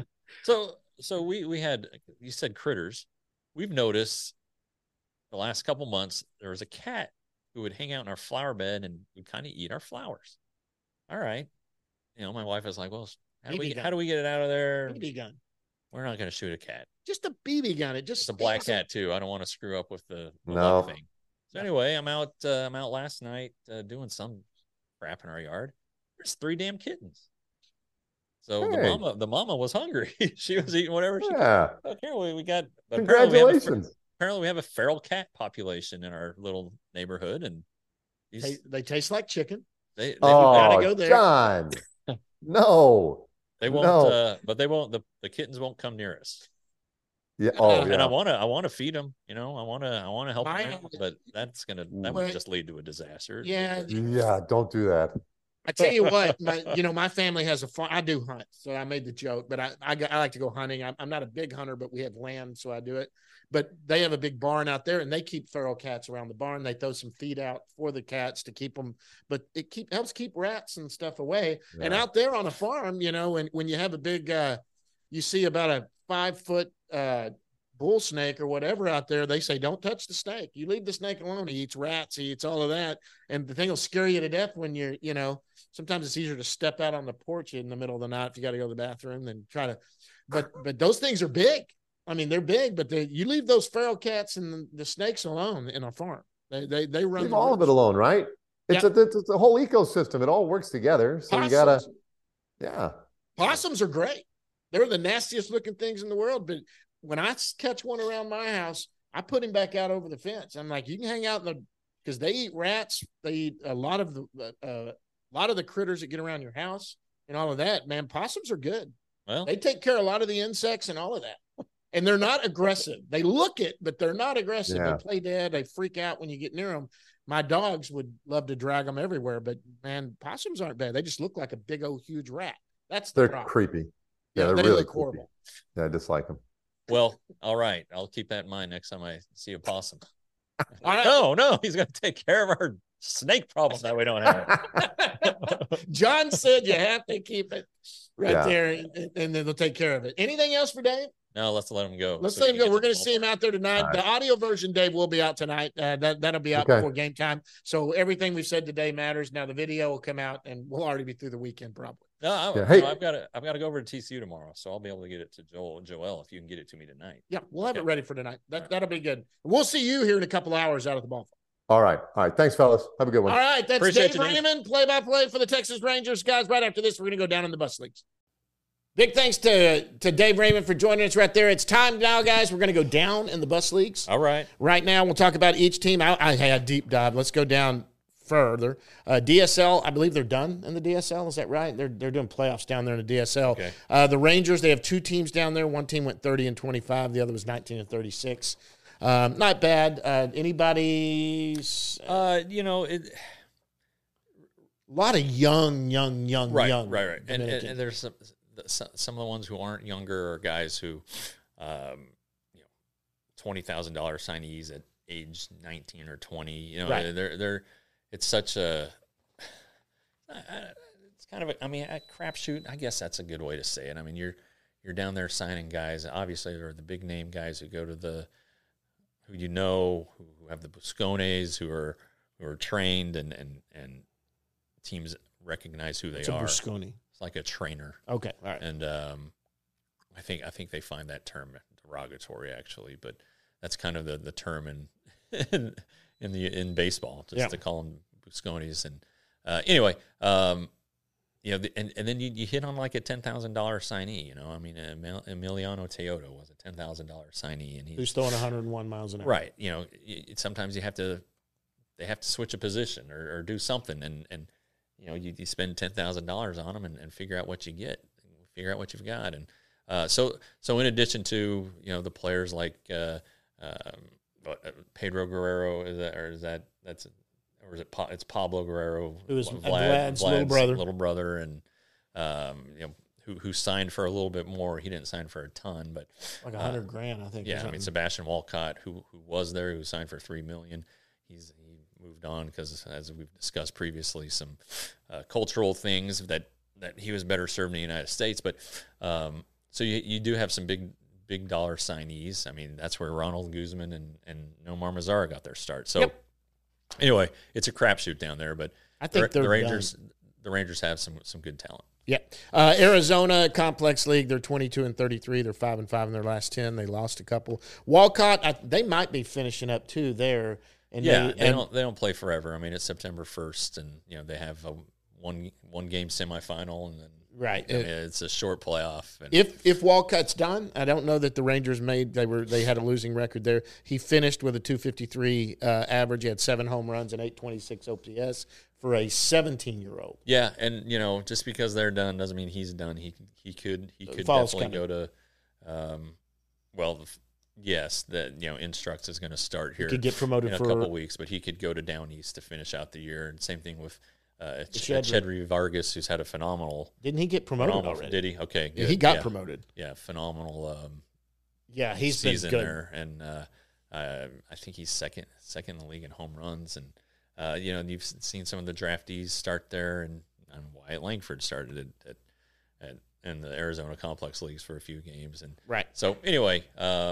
So we had, you said critters. We've noticed the last couple months there was a cat who would hang out in our flower bed and would kind of eat our flowers. All right, my wife was like, "Well, how do we get it out of there?" BB gun. We're not going to shoot a cat. Just a BB gun. It's a black cat too. I don't want to screw up with the thing. So anyway, I'm out last night doing some crap in our yard. There's 3 damn kittens. So the mama was hungry. She was eating whatever she could. Okay, we got. Congratulations. Apparently we have a feral cat population in our little neighborhood, and they taste like chicken. They gotta go there, John. No, they won't. But they won't. The kittens won't come near us. Yeah. Oh, And yeah. I want to feed them. I want to help them out, but that would just lead to a disaster. Yeah. Yeah. Don't do that. I tell you what, my family has a farm. I do hunt, so I made the joke, but I like to go hunting. I'm not a big hunter, but we have land, so I do it. But they have a big barn out there, and they keep feral cats around the barn. They throw some feed out for the cats to keep them, but it helps keep rats and stuff away. Yeah. And out there on a farm, when you have a big, you see about a 5-foot bull snake or whatever out there, they say, don't touch the snake. You leave the snake alone. He eats rats. He eats all of that. And the thing will scare you to death when you're, sometimes it's easier to step out on the porch in the middle of the night if you got to go to the bathroom than try to, but those things are big. I mean, they're big, but you leave those feral cats and the snakes alone in a farm. They run. Leave all of it alone, right? It's a whole ecosystem. It all works together. So Possums. You gotta, yeah. Possums are great. They're the nastiest looking things in the world. But when I catch one around my house, I put him back out over the fence. I'm like, you can hang out because they eat rats. They eat a lot of the critters that get around your house and all of that. Man, possums are good. Well, they take care of a lot of the insects and all of that. And they're not aggressive. They look it, but they're not aggressive. Yeah. They play dead. They freak out when you get near them. My dogs would love to drag them everywhere, but man, possums aren't bad. They just look like a big old huge rat. They're creepy. Yeah, they're they really look horrible. Yeah, I dislike them. Well, all right. I'll keep that in mind next time I see a possum. Right. No, he's going to take care of our snake problem that we don't have. John said you have to keep it there, and then they'll take care of it. Anything else for Dave? No, let's let him go. Let him go. We're going to see him out there tonight. Right. The audio version, Dave, will be out tonight. That'll be out before game time. So everything we've said today matters. Now the video will come out, and we'll already be through the weekend probably. No, I've got to go over to TCU tomorrow, so I'll be able to get it to Joel if you can get it to me tonight. Yeah, we'll have it ready for tonight. That'll be good. We'll see you here in a couple hours out at the ball. All right. Thanks, fellas. Have a good one. All right. That's Appreciate Dave Raymond, play-by-play for the Texas Rangers. Guys, right after this, we're going to go down in the bus leagues. Big thanks to Dave Raymond for joining us right there. It's time now, guys. We're going to go down in the bus leagues. All right. Right now, we'll talk about each team. I had a deep dive. Let's go down further. DSL, I believe they're done in the DSL. Is that right? They're doing playoffs down there in the DSL. Okay. The Rangers, they have two teams down there. One team went 30-25. The other was 19-36. Not bad. Anybody's? A lot of young. Right. And there's some of the ones who aren't younger are guys who, $20,000 signees at age 19 or 20. They're it's such a. It's kind of a crapshoot. I guess that's a good way to say it. I mean, you're down there signing guys. Obviously, they're the big name guys who go to who have the Buscones, who are trained and teams recognize who they are. What's a Buscone? It's like a trainer. Okay, all right. And I think they find that term derogatory actually, but that's kind of the term in baseball, just to call them Buscones. And anyway, and then you hit on like a $10,000 signee. Emiliano Teodo was a $10,000 signee, and he's throwing 101 miles an hour. Right. Sometimes they have to switch a position or do something, and you spend $10,000 on them and figure out what you get, figure out what you've got, and so in addition to the players like Pedro Guerrero, it's Pablo Guerrero, who is Vlad's little brother, and who signed for a little bit more. He didn't sign for a ton, but like $100,000, I think. Yeah, Sebastian Walcott, who was there, who signed for $3 million. He moved on because, as we've discussed previously, some cultural things that he was better served in the United States. But so you do have some big dollar signees. I mean, that's where Ronald Guzman and Nomar Mazara got their start. So anyway, it's a crapshoot down there. But I think the Rangers have some good talent. Yeah. Arizona Complex League, they're 22-33. They're 5-5 in their last 10. They lost a couple. Walcott, they might be finishing up too there. And they don't play forever. I mean, it's September 1st, and they have a one game semifinal, and then it's a short playoff. And if Walcott's done, I don't know that the Rangers they had a losing record there. He finished with a 253 average. He had 7 home runs and 826 OPS for a 17-year-old. Yeah, and just because they're done doesn't mean he's done. He could definitely go to Yes, that Instructs is going to start here. He could get promoted in a for couple of weeks, but he could go to Down East to finish out the year. And same thing with Chedry. Chedry Vargas, who's had a phenomenal. Didn't he get promoted already? Did he? Okay, good. Yeah, he got promoted. Yeah, phenomenal. He's season been good there, and I think he's second in the league in home runs. And you've seen some of the draftees start there, and Wyatt Langford started in the Arizona Complex leagues for a few games, and right. So anyway,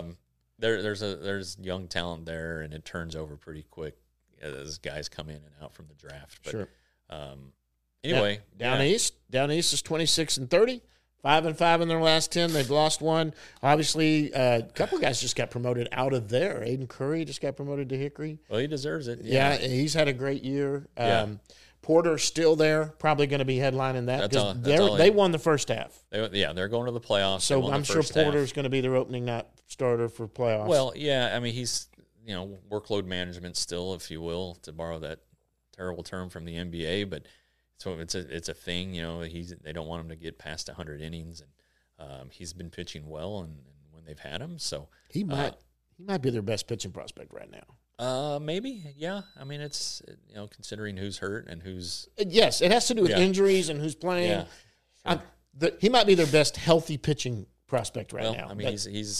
there's young talent there, and it turns over pretty quick as guys come in and out from the draft. But, sure. Anyway, Down East is 26-30, 5-5 in their last 10. They've lost one. Obviously, a couple guys just got promoted out of there. Aiden Curry just got promoted to Hickory. Well, he deserves it. Yeah, he's had a great year. Yeah. Porter's still there, probably going to be headlining that because they won the first half. They're going to the playoffs. So I'm sure Porter's going to be their opening night starter for playoffs. Well, yeah, I mean he's workload management still, if you will, to borrow that terrible term from the NBA, but so it's a thing. They don't want him to get past 100 innings, and he's been pitching well, and when they've had him, so he might be their best pitching prospect right now. Maybe, yeah. I mean, it's considering who's hurt and who's yes, it has to do with injuries and who's playing. Yeah, sure. He might be their best healthy pitching prospect right now. I mean,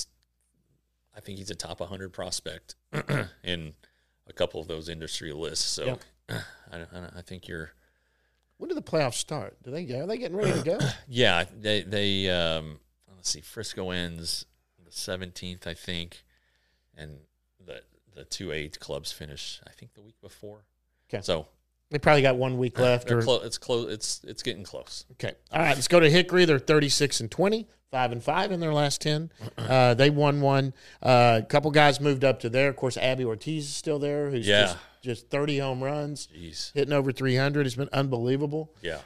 I think he's a top 100 prospect in a couple of those industry lists. So I think you're. When do the playoffs start? Are they getting ready to go? Yeah, they let's see. Frisco ends the 17th, I think, and the 2A clubs finish, I think, the week before. Okay. So they probably got 1 week left. It's close. It's getting close. Okay. All right. Let's go to Hickory. They're 36-20, 5-5 in their last 10. They won one. A couple guys moved up to there. Of course, Abby Ortiz is still there. Who's just 30 home runs, hitting over 300. It's been unbelievable. Yeah.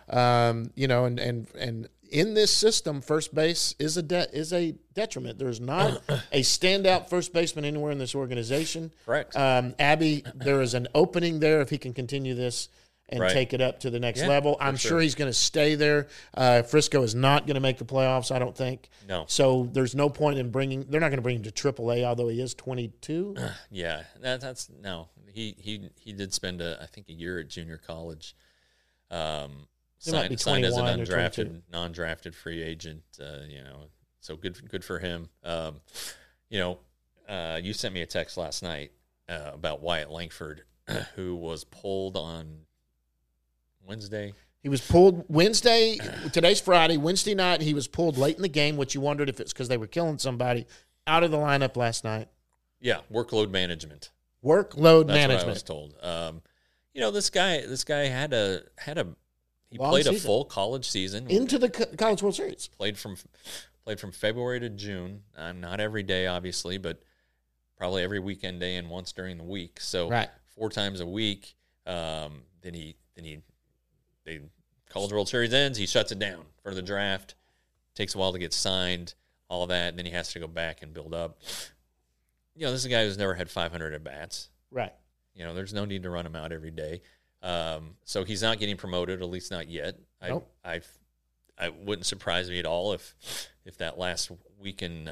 And in this system, first base is a detriment. There's not a standout first baseman anywhere in this organization. Correct. Abby, there is an opening there if he can continue this and take it up to the next level. I'm sure he's going to stay there. Frisco is not going to make the playoffs, I don't think. No. So there's no point in they're not going to bring him to AAA, although he is 22. Yeah, that's no. He did spend I think a year at junior college. Signed as a non-drafted free agent, so good for him. You sent me a text last night about Wyatt Langford, who was pulled on Wednesday. He was pulled Wednesday. Today's Friday. Wednesday night, he was pulled late in the game, which you wondered if it's because they were killing somebody. Out of the lineup last night. Yeah, workload management. That's management. What I was told. This guy had a. He played a full college season into the College World Series. Played from February to June. Not every day, obviously, but probably every weekend day and once during the week. So 4 times a week. Then College World Series ends. He shuts it down for the draft. Takes a while to get signed. All that. And then he has to go back and build up. This is a guy who's never had 500 at bats. Right. There's no need to run him out every day. So he's not getting promoted, at least not yet. Nope. I wouldn't surprise me at all if that last weekend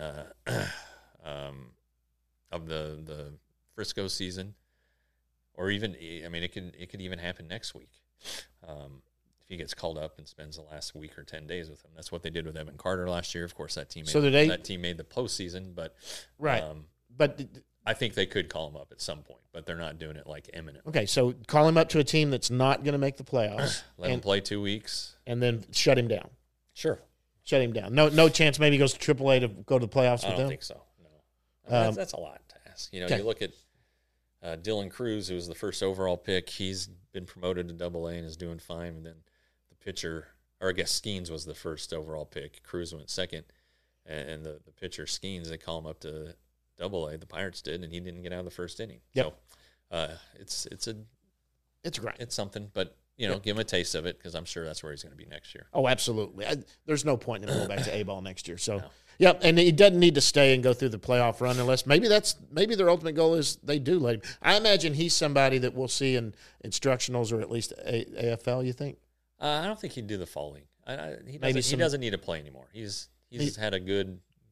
of the Frisco season, or even it could even happen next week if he gets called up and spends the last week or 10 days with him. That's what they did with Evan Carter last year. Of course, that team made the postseason, but but. I think they could call him up at some point, but they're not doing it like imminent. Okay, so call him up to a team that's not going to make the playoffs. Let him play 2 weeks. And then shut him down. Sure. Shut him down. No chance maybe he goes to AAA to go to the playoffs with them? I don't think so, no. That's a lot to ask. You look at Dylan Cruz, who was the first overall pick. He's been promoted to AA and is doing fine. And then the pitcher, or I guess Skeens was the first overall pick. Cruz went second. And the pitcher, Skeens, they call him up to AA, the Pirates did, and he didn't get out of the first inning. Yep. So it's great. It's something, but give him a taste of it because I'm sure that's where he's going to be next year. Oh, absolutely. There's no point in him going back to A-ball next year. So, and he doesn't need to stay and go through the playoff run unless maybe their ultimate goal is they do let him. I imagine he's somebody that we'll see in instructionals or at least AFL. You think? I don't think he'd do the fall league. He doesn't need to play anymore. He's had a good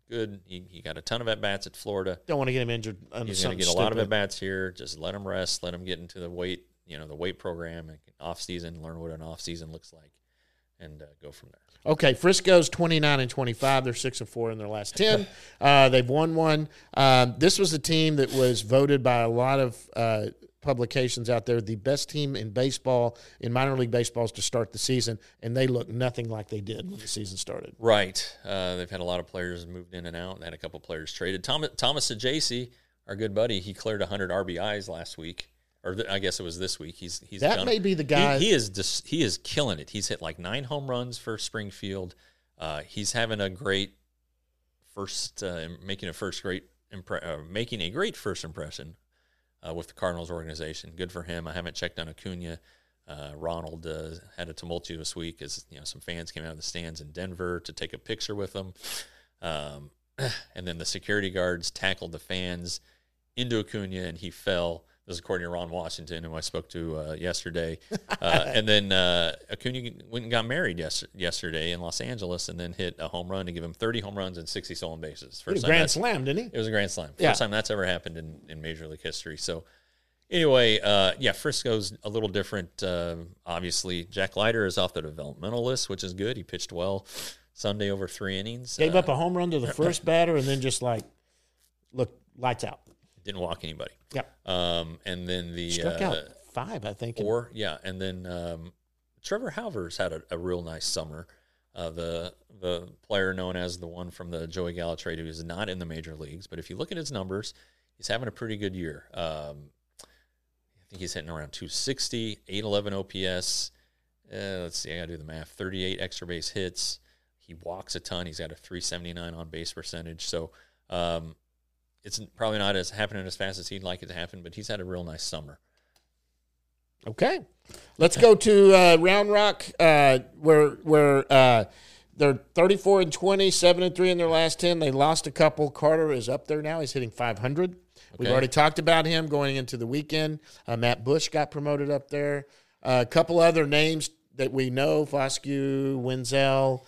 good. He got a ton of at-bats at Florida. Don't want to get him injured. He's going to get a lot of at-bats here. Just let him rest. Let him get into the weight program and off-season, learn what an off-season looks like, and go from there. Okay, Frisco's 29-25. They're 6-4 in their last 10. They've won one. This was a team that was voted by a lot of publications out there the best team in baseball, in minor league baseballs to start the season, and they look nothing like they did when the season started. Right. They've had a lot of players moved in and out, and had a couple players traded. Thomas Saggese, our good buddy, he cleared 100 RBIs last week. Or I guess it was this week. He's that may be the guy. He is killing it. He's hit like 9 home runs for Springfield. He's having a great first, making a great first impression with the Cardinals organization. Good for him. I haven't checked on Acuna. Ronald had a tumultuous week as some fans came out of the stands in Denver to take a picture with him, and then the security guards tackled the fans into Acuna, and he fell. This is according to Ron Washington, who I spoke to yesterday. And then Acuna went and got married yesterday in Los Angeles, and then hit a home run to give him 30 home runs and 60 stolen bases. First time grand slam, didn't he? It was a grand slam. First time that's ever happened in Major League history. So anyway, Frisco's a little different. Obviously, Jack Leiter is off the developmental list, which is good. He pitched well Sunday over 3 innings. Gave up a home run to the first batter, and then just lights out. Didn't walk anybody. Yep. And then the struck out 5, I think. 4, yeah. And then Trevor Halvers had a real nice summer. The player known as the one from the Joey Gallo trade, who is not in the major leagues, but if you look at his numbers, he's having a pretty good year. I think he's hitting around 260, 811 OPS. Let's see, I got to do the math. 38 extra base hits. He walks a ton. He's got a 379 on base percentage. So. It's probably not happening as fast as he'd like it to happen, but he's had a real nice summer. Okay. Let's go to Round Rock, where they're 34-20, 7-3 in their last 10. They lost a couple. Carter is up there now. He's hitting 500. Okay. We've already talked about him going into the weekend. Matt Bush got promoted up there. A couple other names that we know, Foscue, Wenzel,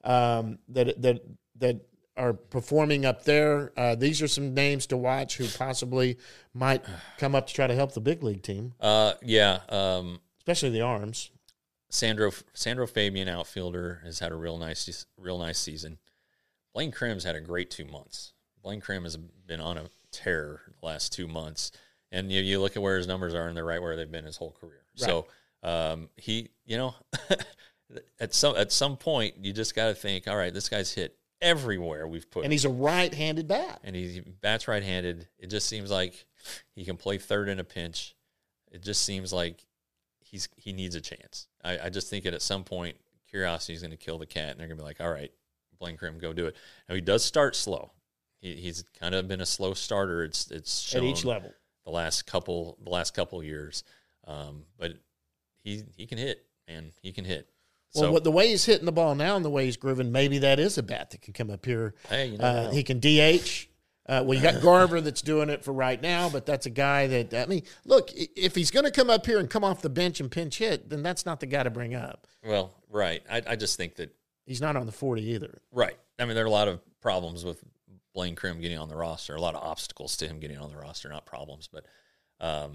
that are performing up there. These are some names to watch who possibly might come up to try to help the big league team. Especially the arms. Sandro Fabian, outfielder, has had a real nice season. Blaine Krim's had a great 2 months. Blaine Krim has been on a tear the last 2 months, and you look at where his numbers are, and they're right where they've been his whole career. Right. So he, at some point, you just got to think, all right, this guy's hit everywhere we've put. And he's a right-handed bat. And he bats right-handed. It just seems like he can play third in a pinch. It just seems like he needs a chance. I just think at some point, curiosity is going to kill the cat, and they're going to be like, all right, Blaine Krim, go do it. Now, he does start slow. He's kind of been a slow starter. It's shown at each level the last couple years. But he can hit, man. He can hit. Well, the way he's hitting the ball now and the way he's grooving, maybe that is a bat that can come up here. Hey, he can DH. You got Garver that's doing it for right now, but that's a guy that, look, if he's going to come up here and come off the bench and pinch hit, then that's not the guy to bring up. Well, right. I just think that he's not on the 40 either. Right. There are a lot of problems with Blaine Krim getting on the roster, a lot of obstacles to him getting on the roster, not problems. But, I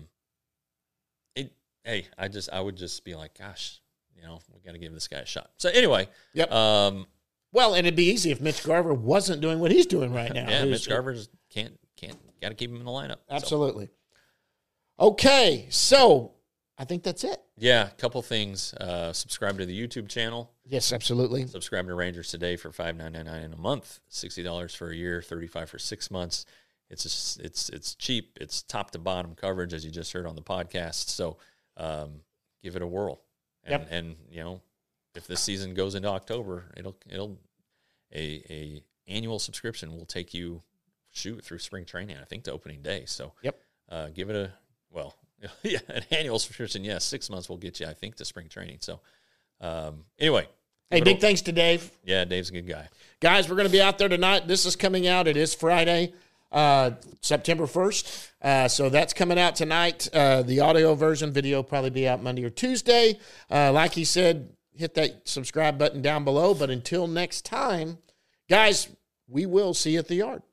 would just be like, gosh, we got to give this guy a shot. So anyway, yep. Well, and it'd be easy if Mitch Garver wasn't doing what he's doing right now. Yeah, Mitch Garver can't got to keep him in the lineup. Absolutely. So. Okay, so I think that's it. Yeah, a couple things. Subscribe to the YouTube channel. Yes, absolutely. Subscribe to Rangers Today for $5.99 in a month, $60 for a year, $35 for 6 months. It's cheap. It's top to bottom coverage, as you just heard on the podcast. So give it a whirl. And if this season goes into October, a annual subscription will take you through spring training, I think, to opening day. So give it an annual subscription. Yes, 6 months will get you, I think, to spring training. So anyway. Hey, big thanks to Dave. Yeah, Dave's a good guy. Guys, we're going to be out there tonight. This is coming out. It is Friday, September 1st. So that's coming out tonight. The audio version, video will probably be out Monday or Tuesday. Like he said, hit that subscribe button down below. But until next time, guys, we will see you at the yard.